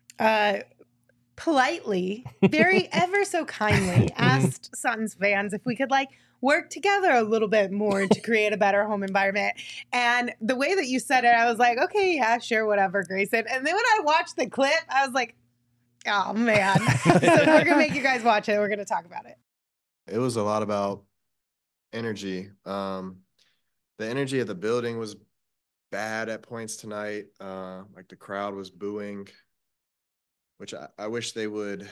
Speaker 1: politely, very ever so kindly asked Suns fans if we could work together a little bit more to create a better home environment. And the way that you said it, I was like, okay, yeah, sure, whatever, Grayson. And then when I watched the clip, I was like, oh, man. So we're going to make you guys watch it. We're going to talk about it.
Speaker 8: It was a lot about energy. The energy of the building was bad at points tonight. Like the crowd was booing, which I wish we would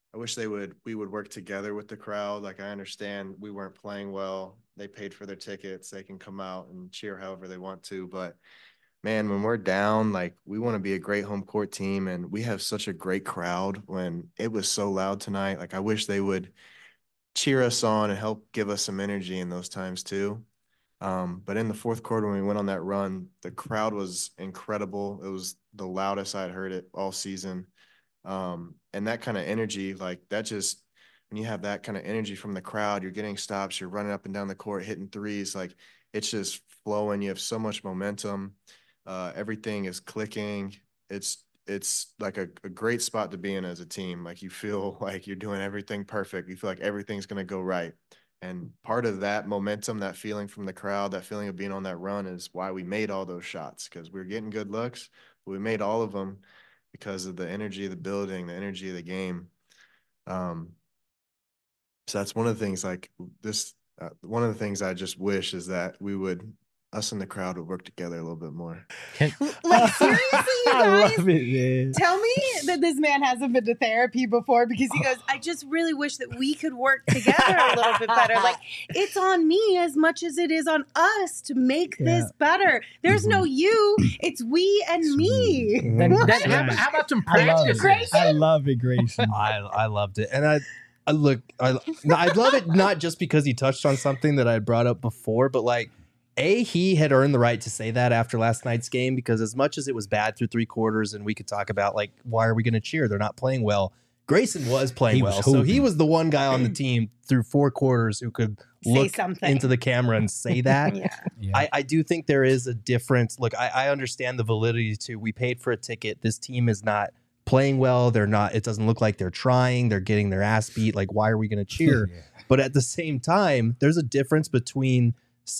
Speaker 8: work together with the crowd. Like, I understand we weren't playing well. They paid for their tickets. They can come out and cheer however they want to. But man, when we're down, like, we want to be a great home court team, and we have such a great crowd. When it was so loud tonight, like, I wish they would cheer us on and help give us some energy in those times too. But in the fourth quarter, when we went on that run, the crowd was incredible. It was the loudest I'd heard it all season. And that kind of energy, like, that just, when you have that kind of energy from the crowd, you're getting stops, you're running up and down the court, hitting threes, like, it's just flowing. You have so much momentum. Everything is clicking. It's like a great spot to be in as a team. Like, you feel like you're doing everything perfect. You feel like everything's going to go right. And part of that momentum, that feeling from the crowd, that feeling of being on that run is why we made all those shots, because we were getting good looks, but we made all of them because of the energy of the building, the energy of the game. So that's one of the things, like this, one of the things I just wish is that us and the crowd would work together a little bit more.
Speaker 1: Like, seriously, you
Speaker 3: I
Speaker 1: guys?
Speaker 3: love it, man.
Speaker 1: Tell me that this man hasn't been to therapy before, because he goes, I just really wish that we could work together a little bit better. Like, it's on me as much as it is on us to make this better. There's no you, it's we and me.
Speaker 2: Then,
Speaker 1: What?
Speaker 2: how about some
Speaker 3: I love
Speaker 2: practice?
Speaker 3: it.
Speaker 1: Grayson?
Speaker 3: I love it, Grayson.
Speaker 4: I loved it. And I love it not just because he touched on something that I had brought up before, but like, he had earned the right to say that after last night's game, because as much as it was bad through 3 quarters and we could talk about, like, why are we going to cheer? They're not playing well. Grayson was playing
Speaker 3: He
Speaker 4: well.
Speaker 3: was
Speaker 4: So he
Speaker 3: hooping.
Speaker 4: was the one guy on the team through 4 quarters who could
Speaker 1: Say
Speaker 4: look
Speaker 1: something.
Speaker 4: into the camera and say that.
Speaker 1: Yeah.
Speaker 3: Yeah.
Speaker 4: I do think there is a difference. Look, I understand the validity too. We paid for a ticket. This team is not playing well. It doesn't look like they're trying. They're getting their ass beat. Like, why are we going to cheer? But at the same time, there's a difference between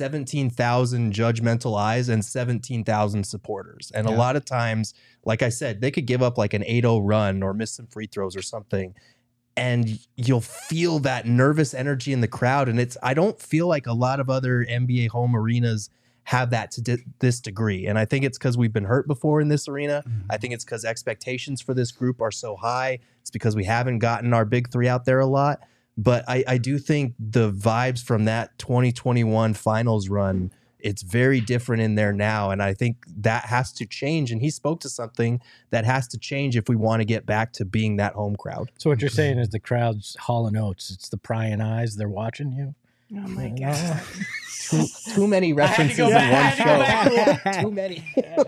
Speaker 4: 17,000 judgmental eyes and 17,000 supporters. And a lot of times, like I said, they could give up like an 8-0 run or miss some free throws or something, and you'll feel that nervous energy in the crowd. And I don't feel like a lot of other NBA home arenas have that to this degree. And I think it's because we've been hurt before in this arena. I think it's because expectations for this group are so high. It's because we haven't gotten our big 3 out there a lot. But I do think the vibes from that 2021 finals run, it's very different in there now. And I think that has to change. And he spoke to something that has to change if we want to get back to being that home crowd.
Speaker 2: So what you're saying is the crowd's Hall & Oates. It's the prying eyes. They're watching you.
Speaker 1: Oh my God.
Speaker 4: Too many references in one show. Too many.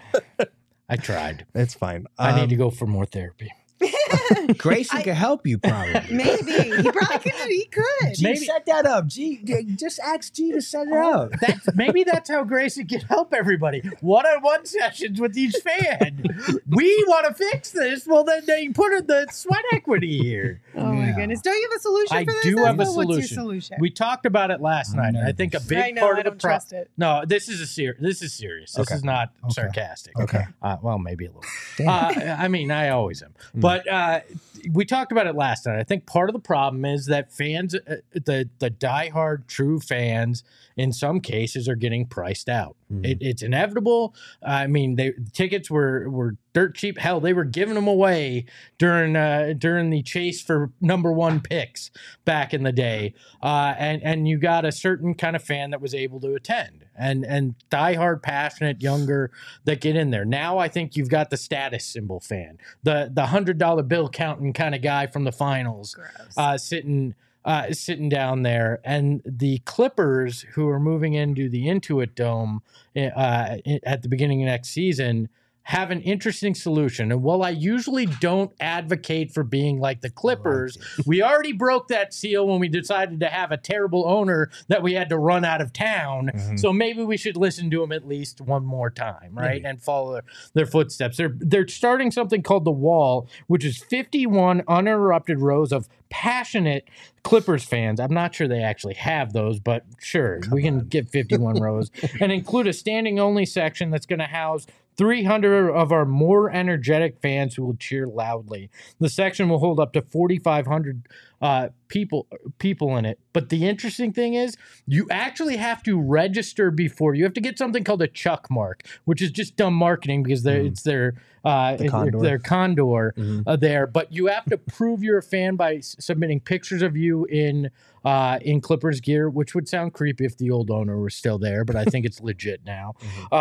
Speaker 2: I tried.
Speaker 4: It's fine.
Speaker 2: I need to go for more therapy.
Speaker 3: Grayson could help you probably.
Speaker 1: Maybe. He probably could. He could.
Speaker 3: G, set that up. G, just ask G to set it up.
Speaker 2: Maybe that's how Grayson can help everybody. One-on-one sessions with each fan. We want to fix this. Well, then they put in the sweat equity here.
Speaker 1: Oh my goodness. Don't you have a solution
Speaker 2: I
Speaker 1: for this?
Speaker 2: do have a
Speaker 1: Espo?
Speaker 2: solution.
Speaker 1: What's your solution?
Speaker 2: We talked about it last night. I think a big part of the problem. No, this is serious. This is not sarcastic.
Speaker 3: Okay.
Speaker 2: Well, maybe a little. I mean, I always am. But we talked about it last night. I think part of the problem is that fans, the diehard true fans, in some cases are getting priced out. It's inevitable. I mean, tickets were dirt cheap. Hell, they were giving them away during the chase for #1 picks back in the day. And you got a certain kind of fan that was able to attend, and diehard, passionate, younger that get in there. Now I think you've got the status symbol fan, the $100 bill counting kind of guy from the finals, sitting down there, and the Clippers, who are moving into the Intuit Dome at the beginning of next season, have an interesting solution. And while I usually don't advocate for being like the Clippers, we already broke that seal when we decided to have a terrible owner that we had to run out of town. So maybe we should listen to them at least one more time, right? And follow their footsteps. They're starting something called The Wall, which is 51 uninterrupted rows of passionate Clippers fans. I'm not sure they actually have those, but sure, we can get 51 rows and include a standing only section that's going to house 300 of our more energetic fans who will cheer loudly. The section will hold up to 4,500 people in it. But the interesting thing is, you actually have to register before. You have to get something called a Chuck mark, which is just dumb marketing because it's their condor there. But you have to prove you're a fan by submitting pictures of you in Clippers gear, which would sound creepy if the old owner was still there, but I think it's legit now.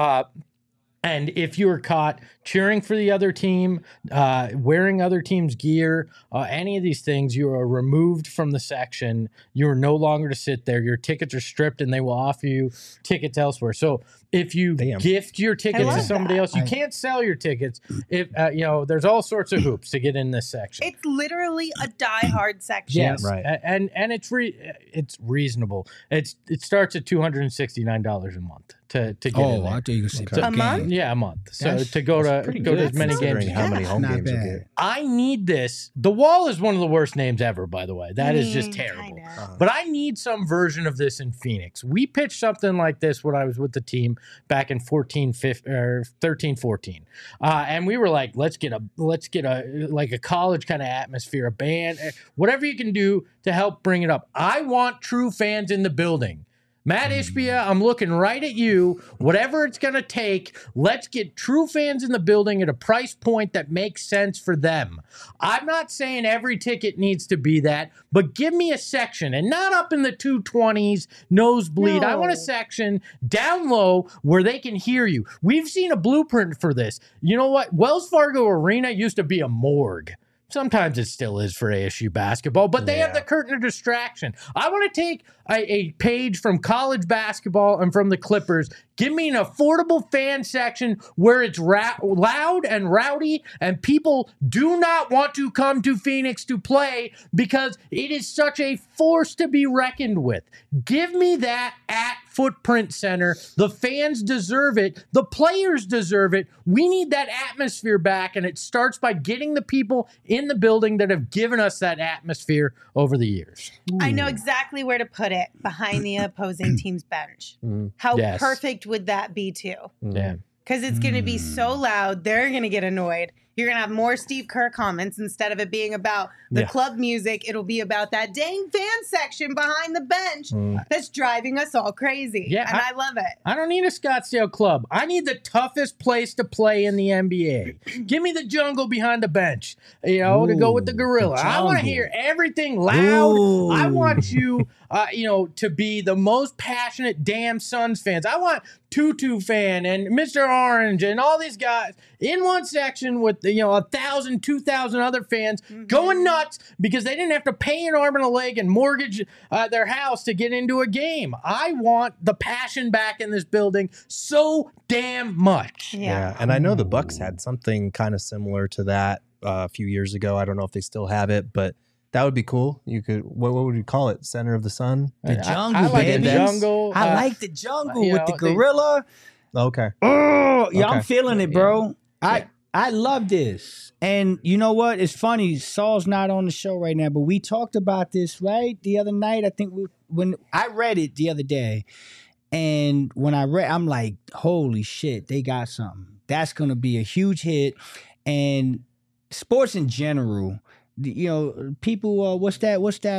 Speaker 2: And if you were caught cheering for the other team, wearing other team's gear, any of these things, you are removed from the section. You are no longer to sit there. Your tickets are stripped, and they will offer you tickets elsewhere. So if you gift your tickets to somebody else, you can't sell your tickets. If there's all sorts of hoops to get in this section.
Speaker 1: It's literally a diehard section.
Speaker 2: Yes, right. And it's reasonable. It starts at $269 a month to get in there.
Speaker 3: I thought you were saying
Speaker 1: a month.
Speaker 2: Yeah, a month. So to go to as many games.
Speaker 4: How many home games you get?
Speaker 2: I need this. The Wall is one of the worst names ever, by the way. That is just terrible. But I need some version of this in Phoenix. We pitched something like this when I was with the team back in 13, 14. And we were like, let's get a college kind of atmosphere, a band, whatever you can do to help bring it up. I want true fans in the building. Matt Ishbia, I'm looking right at you. Whatever it's going to take, let's get true fans in the building at a price point that makes sense for them. I'm not saying every ticket needs to be that, but give me a section, and not up in the 220s, nosebleed.
Speaker 1: No.
Speaker 2: I want a section down low where they can hear you. We've seen a blueprint for this. You know what? Wells Fargo Arena used to be a morgue. Sometimes it still is for ASU basketball, but they have the curtain of distraction. I want to take a page from college basketball and from the Clippers. Give me an affordable fan section where it's loud and rowdy and people do not want to come to Phoenix to play because it is such a force to be reckoned with. Give me that at Footprint Center. The fans deserve it. The players deserve it. We need that atmosphere back, and it starts by getting the people in the building that have given us that atmosphere over the years.
Speaker 1: I know exactly where to put it, behind the opposing team's bench. How perfect would that be too?
Speaker 2: Yeah.
Speaker 1: Because it's going to be so loud, they're going to get annoyed. You're going to have more Steve Kerr comments. Instead of it being about the club music, it'll be about that dang fan section behind the bench that's driving us all crazy. Yeah, and I love it.
Speaker 2: I don't need a Scottsdale club. I need the toughest place to play in the NBA. Give me the jungle behind the bench, to go with the gorilla. I want to hear everything loud. I want you, to be the most passionate damn Suns fans. I want Tutu fan and Mr. Orange and all these guys in one section with 1,000, 2,000 other fans going nuts because they didn't have to pay an arm and a leg and mortgage their house to get into a game. I want the passion back in this building so damn much.
Speaker 4: Yeah, and I know the Bucks had something kind of similar to that a few years ago. I don't know if they still have it, but that would be cool. You could, what would you call it? Center of the Sun?
Speaker 3: The jungle,
Speaker 2: I like
Speaker 3: baby.
Speaker 2: the jungle.
Speaker 3: I like the jungle
Speaker 2: you
Speaker 3: with
Speaker 2: know,
Speaker 3: the gorilla.
Speaker 4: Okay.
Speaker 3: Oh, yeah,
Speaker 4: Okay.
Speaker 3: I'm feeling it, bro.
Speaker 2: Yeah.
Speaker 3: I love this. And you know what? It's funny. Saul's not on the show right now, but we talked about this, right? The other night, I think when I read it the other day, and when I read, I'm like, holy shit, they got something. That's going to be a huge hit. And sports in general, people, what's that?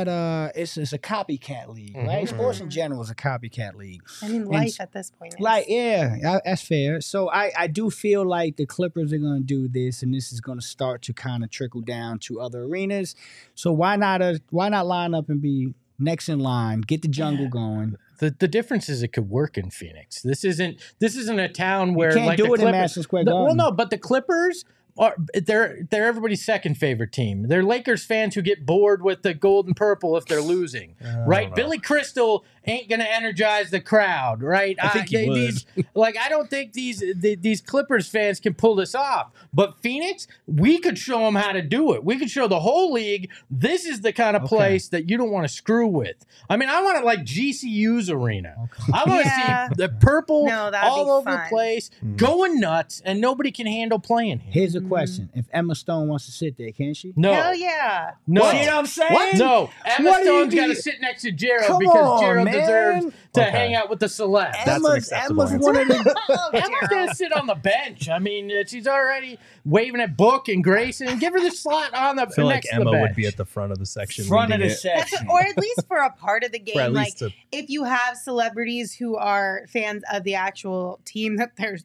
Speaker 3: It's a copycat league, right? Sports in general is a copycat league.
Speaker 1: I mean, life at this point.
Speaker 3: Like, yeah, that's fair. So I do feel like the Clippers are going to do this, and this is going to start to kind of trickle down to other arenas. So why not line up and be next in line, get the jungle going?
Speaker 2: The difference is it could work in Phoenix. This isn't a town where
Speaker 3: You can't
Speaker 2: like
Speaker 3: do
Speaker 2: the
Speaker 3: it in
Speaker 2: Clippers,
Speaker 3: Madison Square Garden.
Speaker 2: Well, no, but the Clippers they're everybody's second favorite team. They're Lakers fans who get bored with the gold and purple if they're losing, right? Billy Crystal ain't gonna energize the crowd, right?
Speaker 4: I think he would.
Speaker 2: I don't think these Clippers fans can pull this off. But Phoenix, we could show them how to do it. We could show the whole league this is the kind of place that you don't want to screw with. I mean, I want it like GCU's arena. I want to see the purple all over the place, going nuts, and nobody can handle playing here.
Speaker 3: Here's a question. If Emma Stone wants to sit there, can she?
Speaker 2: No.
Speaker 1: Hell yeah.
Speaker 2: No.
Speaker 3: See what I'm saying?
Speaker 2: What? No. Emma
Speaker 3: What do you
Speaker 2: Stone's got to
Speaker 3: do?
Speaker 2: sit next to Gerald
Speaker 3: Come
Speaker 2: because
Speaker 3: on,
Speaker 2: Gerald
Speaker 3: man.
Speaker 2: deserves to hang out with the celebs.
Speaker 4: That's an acceptable answer.
Speaker 3: one of the
Speaker 2: Emma's going to sit on the bench. I mean, she's already waving at Book and Grayson. Give her the slot on the
Speaker 4: I feel like
Speaker 2: next to the
Speaker 4: Emma
Speaker 2: bench.
Speaker 4: would be at the front of the section.
Speaker 3: front of
Speaker 4: leading
Speaker 3: the
Speaker 4: it.
Speaker 3: section.
Speaker 1: Or at least for a part of the
Speaker 4: For at
Speaker 1: game. Like,
Speaker 4: least a-
Speaker 1: if you have celebrities who are fans of the actual team that they're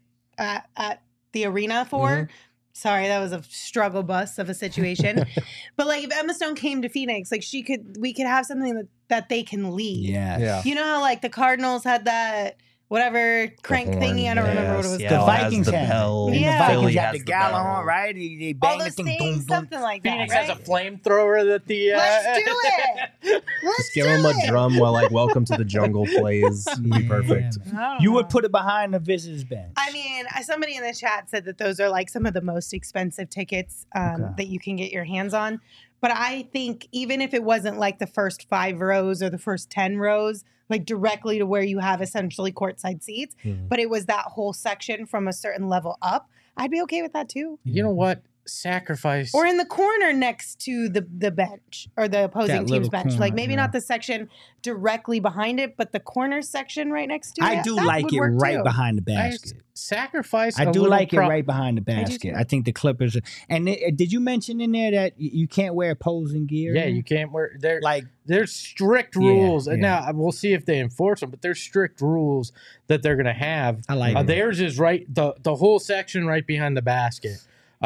Speaker 1: at the arena for. Sorry, that was a struggle bus of a situation. But like if Emma Stone came to Phoenix, like we could have something that they can lead.
Speaker 3: Yeah.
Speaker 1: You know how like the Cardinals had that whatever crank thingy? I don't remember what it was
Speaker 3: The
Speaker 4: Seattle
Speaker 1: called.
Speaker 4: has
Speaker 3: Vikings
Speaker 4: the
Speaker 3: had
Speaker 4: bell.
Speaker 3: it. And
Speaker 1: Yeah.
Speaker 3: the Vikings
Speaker 4: Philly
Speaker 3: got
Speaker 4: has
Speaker 3: the
Speaker 4: the
Speaker 3: gala
Speaker 4: bell.
Speaker 3: on, right? They
Speaker 1: All
Speaker 3: bang the
Speaker 1: those
Speaker 3: thing,
Speaker 1: things,
Speaker 3: boom, boom.
Speaker 1: something like that.
Speaker 2: Phoenix
Speaker 1: right?
Speaker 2: has a flamethrower that the...
Speaker 1: Let's do it.
Speaker 4: Just give him a drum while like "Welcome to the Jungle" plays. Be perfect.
Speaker 3: You would put it behind the visitors bench.
Speaker 1: I mean, somebody in the chat said that those are like some of the most expensive tickets that you can get your hands on. But I think even if it wasn't like the first 5 rows or the first 10 rows, like directly to where you have essentially courtside seats, but it was that whole section from a certain level up, I'd be okay with that too.
Speaker 2: You know what? Sacrifice.
Speaker 1: Or in the corner next to the bench or the opposing team's
Speaker 3: little
Speaker 1: bench.
Speaker 3: corner,
Speaker 1: Like maybe
Speaker 3: yeah.
Speaker 1: not the section directly behind it, but the corner section right next to it.
Speaker 3: I do
Speaker 1: that
Speaker 3: like
Speaker 1: would
Speaker 3: it
Speaker 1: work
Speaker 3: right
Speaker 1: too.
Speaker 3: behind the basket.
Speaker 2: Sacrifice.
Speaker 3: I
Speaker 2: a
Speaker 3: do
Speaker 2: little
Speaker 3: like it right behind the
Speaker 1: do
Speaker 3: basket.
Speaker 1: too.
Speaker 3: I think the Clippers. And did you mention in there that you can't wear opposing gear?
Speaker 2: Yeah, you can't wear.
Speaker 3: Like,
Speaker 2: There's strict
Speaker 3: Yeah,
Speaker 2: rules.
Speaker 3: yeah.
Speaker 2: And now we'll see if they enforce them, but there's strict rules that they're going to have.
Speaker 3: I like it.
Speaker 2: Theirs is right. The whole section right behind the basket.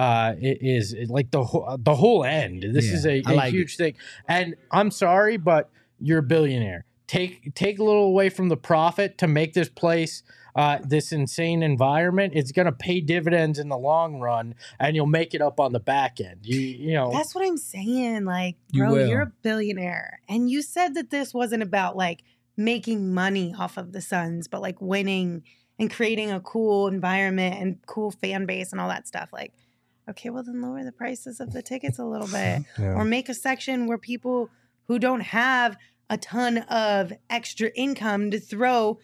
Speaker 2: It is like the whole end. This
Speaker 3: Yeah,
Speaker 2: is a
Speaker 3: I like
Speaker 2: huge thing. And I'm sorry, but you're a billionaire. Take a little away from the profit to make this place this insane environment. It's going to pay dividends in the long run, and you'll make it up on the back end. You know.
Speaker 1: That's what I'm saying. Like,
Speaker 3: You
Speaker 1: bro,
Speaker 3: will.
Speaker 1: you're a billionaire. And you said that this wasn't about like making money off of the Suns, but like winning and creating a cool environment and cool fan base and all that stuff. Like, okay, well then lower the prices of the tickets a little bit. Or make a section where people who don't have a ton of extra income to throw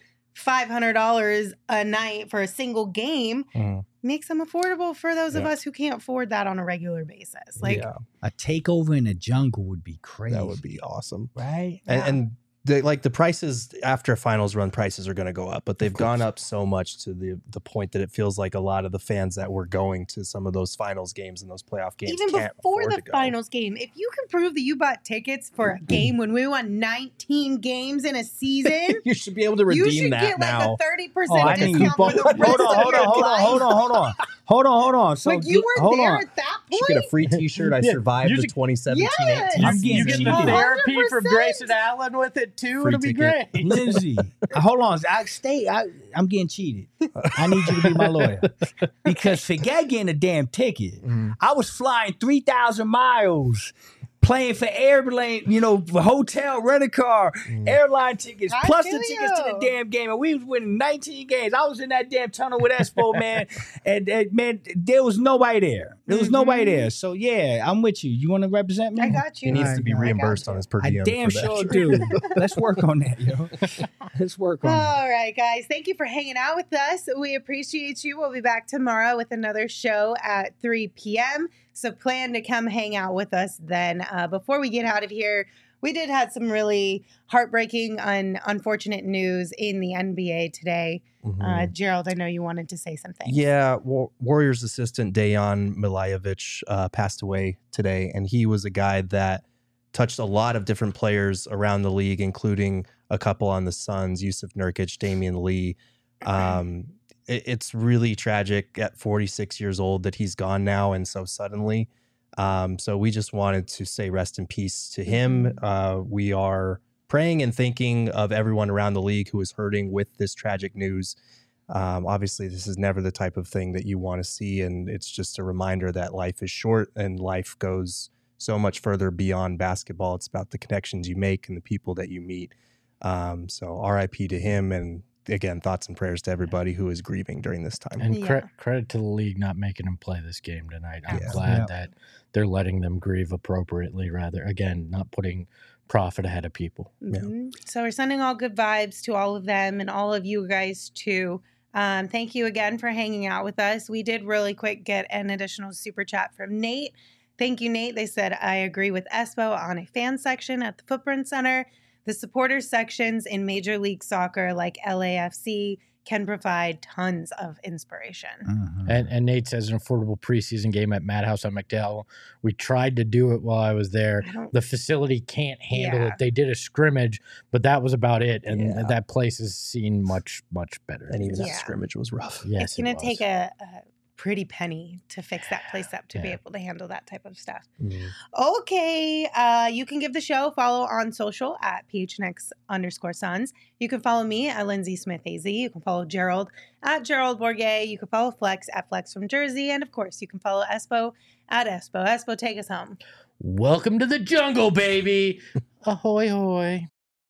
Speaker 1: $500 a night for a single game makes them affordable for those of us who can't afford that on a regular basis. Like,
Speaker 3: a takeover in the jungle would be crazy.
Speaker 4: That would be awesome.
Speaker 3: right.
Speaker 4: And the prices after finals run prices are going to go up, but they've gone up so much to the point that it feels like a lot of the fans that were going to some of those finals games and those playoff games
Speaker 1: even
Speaker 4: can't
Speaker 1: before
Speaker 4: afford
Speaker 1: the
Speaker 4: to go.
Speaker 1: finals game, if you can prove that you bought tickets for a game when we won 19 games in a season,
Speaker 4: You should be able to
Speaker 1: you
Speaker 4: redeem
Speaker 1: should
Speaker 4: that
Speaker 1: get
Speaker 4: now.
Speaker 1: like a 30%
Speaker 3: Oh, I think you
Speaker 1: discount
Speaker 3: bought.
Speaker 1: for the rest of your life.
Speaker 3: Hold on. So
Speaker 1: Like you weren't
Speaker 3: hold
Speaker 1: there
Speaker 3: on.
Speaker 1: at that
Speaker 4: Should get a free T-shirt. I
Speaker 2: Yeah,
Speaker 4: survived
Speaker 2: you
Speaker 4: the
Speaker 2: should-
Speaker 4: 2017
Speaker 1: Yes!
Speaker 4: 18
Speaker 3: I'm
Speaker 2: You
Speaker 3: getting
Speaker 2: get
Speaker 3: cheated.
Speaker 2: the
Speaker 3: cheated.
Speaker 2: therapy from
Speaker 1: 100%.
Speaker 2: Grayson Allen with it too.
Speaker 4: Free
Speaker 2: It'll be
Speaker 4: ticket.
Speaker 2: great.
Speaker 3: Lindsay, hold on. I'm getting cheated. I need you to be my lawyer. Because forget getting a damn ticket. I was flying 3,000 miles, playing for airplane, for hotel, rent a car, airline tickets,
Speaker 1: I
Speaker 3: plus
Speaker 1: feel
Speaker 3: the tickets to
Speaker 1: you.
Speaker 3: the damn game. And we was winning 19 games. I was in that damn tunnel with Espo, man. And man, there was nobody there. There was nobody there. So yeah, I'm with you. You want to represent me?
Speaker 1: I got you.
Speaker 4: He needs to be
Speaker 3: I got
Speaker 4: reimbursed on his per
Speaker 3: I
Speaker 4: diem.
Speaker 3: damn
Speaker 4: for that.
Speaker 3: sure do. Let's work on that, yo. Let's work on that.
Speaker 1: All right, guys. Thank you for hanging out with us. We appreciate you. We'll be back tomorrow with another show at 3 p.m. So plan to come hang out with us then. Before we get out of here, we did have some really heartbreaking and unfortunate news in the NBA today. Gerald, I know you wanted to say something.
Speaker 4: Yeah, Warriors assistant Dejan Milajevic passed away today, and he was a guy that touched a lot of different players around the league, including a couple on the Suns, Yusuf Nurkic, Damian Lee. It's really tragic at 46 years old that he's gone now and so suddenly. So we just wanted to say rest in peace to him. We are praying and thinking of everyone around the league who is hurting with this tragic news. Obviously, this is never the type of thing that you want to see, and it's just a reminder that life is short and life goes so much further beyond basketball. It's about the connections you make and the people that you meet. So RIP to him, and again, thoughts and prayers to everybody who is grieving during this time.
Speaker 2: And
Speaker 1: Yeah.
Speaker 2: credit to the league not making him play this game tonight. I'm
Speaker 4: Yeah.
Speaker 2: glad
Speaker 3: Yeah.
Speaker 2: that they're letting them grieve appropriately, rather, again, not putting profit ahead of people.
Speaker 1: Mhm. So we're sending all good vibes to all of them and all of you guys too. Thank you again for hanging out with us. We did really quick get an additional super chat from Nate. Thank you, Nate. They said, I agree with Espo on a fan section at the Footprint Center. The supporters sections in Major League Soccer like LAFC can provide tons of inspiration.
Speaker 2: And Nate says an affordable preseason game at Madhouse on McDowell. We tried to do it while I was there.
Speaker 1: I don't-
Speaker 2: The facility can't handle
Speaker 1: Yeah.
Speaker 2: it. They did a scrimmage, but that was about it. And
Speaker 4: Yeah.
Speaker 2: that place has seen much, much better.
Speaker 4: And even
Speaker 1: Yeah.
Speaker 4: that scrimmage was rough.
Speaker 2: Yes,
Speaker 1: It's going
Speaker 2: it
Speaker 1: to take
Speaker 2: was.
Speaker 1: a pretty penny to fix that place up to be
Speaker 2: Yeah.
Speaker 1: able to handle that type of stuff.
Speaker 4: Mhm.
Speaker 1: Okay. You can give the show a follow on social at PHNX_Suns. You can follow me at Lindsay Smith AZ. You can follow Gerald at Gerald Bourget. You can follow Flex at Flex from Jersey. And of course, you can follow Espo at Espo. Espo, take us home.
Speaker 2: Welcome to the jungle, baby. Ahoy, hoy.